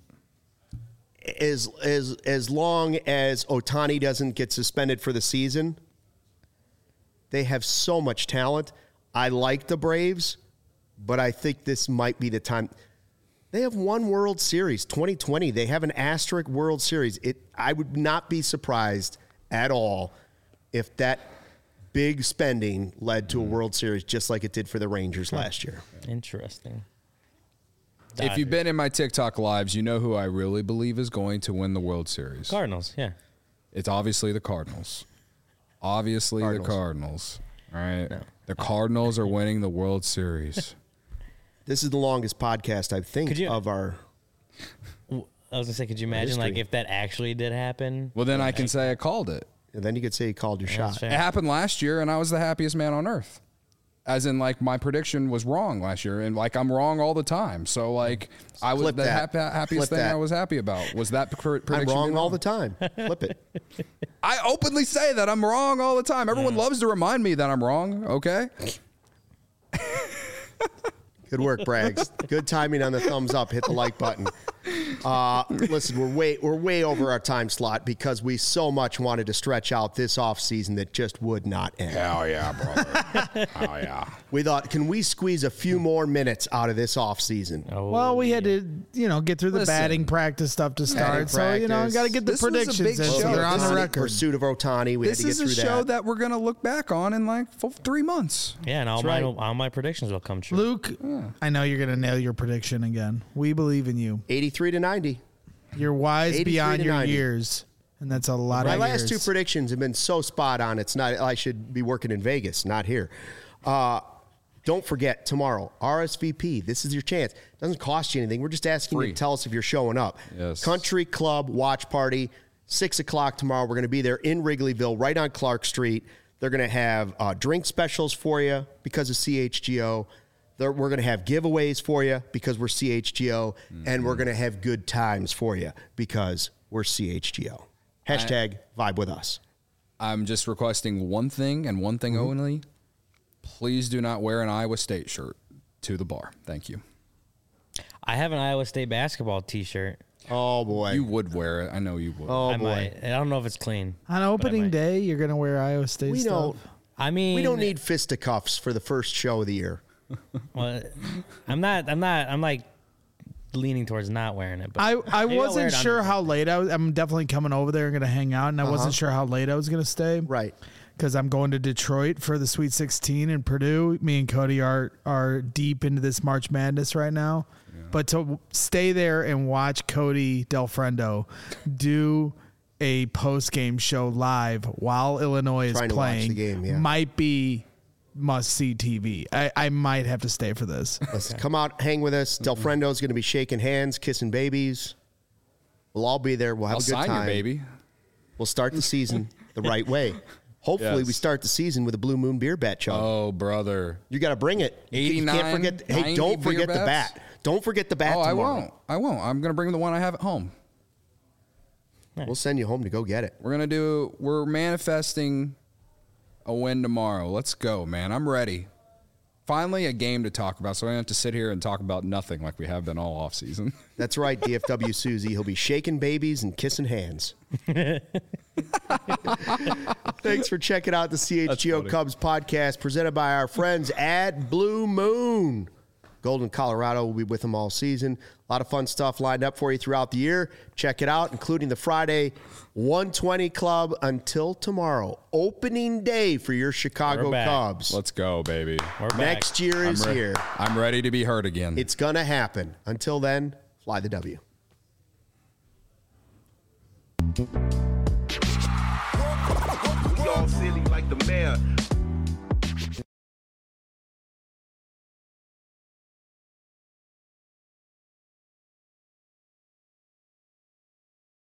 as as as long as Ohtani doesn't get suspended for the season, they have so much talent. I like the Braves, but I think this might be the time. They have one World Series, twenty twenty. They have an asterisk World Series. It. I would not be surprised at all if that big spending led to a World Series just like it did for the Rangers last year. Interesting. If you've been in my TikTok lives, you know who I really believe is going to win the World Series. Cardinals, yeah. It's obviously the Cardinals. Obviously Cardinals. the Cardinals. All right. The Cardinals are winning the World Series. This is the longest podcast, I think, Could you- of our. I was gonna say, could you imagine like history. if that actually did happen? Well, then I can say I called it. And then you could say you called your That's shot. fair. It happened last year, and I was the happiest man on earth. As in, like, my prediction was wrong last year, and, like, I'm wrong all the time. So, like, I was Flip the that. hap- happiest Flip thing I that. was happy about. Was that pr- prediction I'm wrong being all the time. Flip it. I openly say that I'm wrong all the time. Everyone loves to remind me that I'm wrong, okay? Good work, Braggs. Good timing on the thumbs up. Hit the like button. Uh, listen, we're way we're way over our time slot because we so much wanted to stretch out this off season that just would not end. Hell yeah, brother. Hell yeah. We thought, can we squeeze a few more minutes out of this off season? Oh, Well, we had to, you know, get through the Listen. batting practice stuff to start. Batting So, you know, practice. got to get the This was a predictions big in show. so they're on This the is- record. Pursuit of Ohtani. We This had to is get a through show that. that. we're going to look back on in, like, f- three months. yeah, and all That's my right. all my predictions will come true. Luke, I know you're going to nail your prediction again. We believe in you. eighty-three to ninety. You're wise eighty-three beyond to your ninety. years, and that's a lot My of last years. two predictions have been so spot on. It's not. I should be working in Vegas, not here. Uh, don't forget tomorrow, R S V P. This is your chance. Doesn't cost you anything. We're just asking you Free. to tell us if you're showing up. Yes. Country Club Watch Party, six o'clock tomorrow. We're going to be there in Wrigleyville, right on Clark Street. They're going to have uh, drink specials for you because of C H G O. They're, we're going to have giveaways for you because we're C H G O, Mm-hmm. and we're going to have good times for you because we're C H G O. Hashtag vibe with us. I'm just requesting one thing and one thing only. Please do not wear an Iowa State shirt to the bar. Thank you. I have an Iowa State basketball T-shirt. Oh boy. You would wear it. I know you would. oh I boy. might. I don't know if it's clean. On but I opening might. day, you're going to wear Iowa State We stuff. don't. I mean, We don't need fisticuffs for the first show of the year. Well, I'm not. I'm not. I'm like leaning towards not wearing it. But I, I maybe I'll wear wasn't it sure under. how late I was. I'm definitely coming over there and going to hang out, and I wasn't sure how late I was going to stay. Right. Because I'm going to Detroit for the Sweet sixteen in Purdue. Me and Cody are are deep into this March Madness right now. But to stay there and watch Cody Del Friendo do a post game show live while Illinois is Trying to watch playing the game, yeah. might be must see T V. I, I might have to stay for this. Let's come out, hang with us. Del Frendo's going to be shaking hands, kissing babies. We'll all be there. We'll have I'll a good sign time. your baby. We'll start the season the right way. Hopefully, Yes. we start the season with a Blue Moon beer bat chug. Oh, brother. You got to bring it. You eighty-nine, can't forget. Hey, ninety don't beer forget the bats? bat. Don't forget the bat. Oh, I tomorrow. won't. I won't. I'm going to bring the one I have at home. We'll send you home to go get it. We're gonna do. We're manifesting a win tomorrow. Let's go, man. I'm ready. Finally, a game to talk about, so I don't have to sit here and talk about nothing like we have been all off season. That's right, D F W Susie. He'll be shaking babies and kissing hands. Thanks for checking out the C H G O Cubs podcast presented by our friends at Blue Moon. Golden, Colorado will be with them all season. A lot of fun stuff lined up for you throughout the year. Check it out, including the Friday one twenty Club until tomorrow. Opening day for your Chicago Cubs. Let's go, baby. We're back. Next year is I'm re- here. I'm ready to be hurt again. It's going to happen. Until then, fly the W. We all silly like the mayor.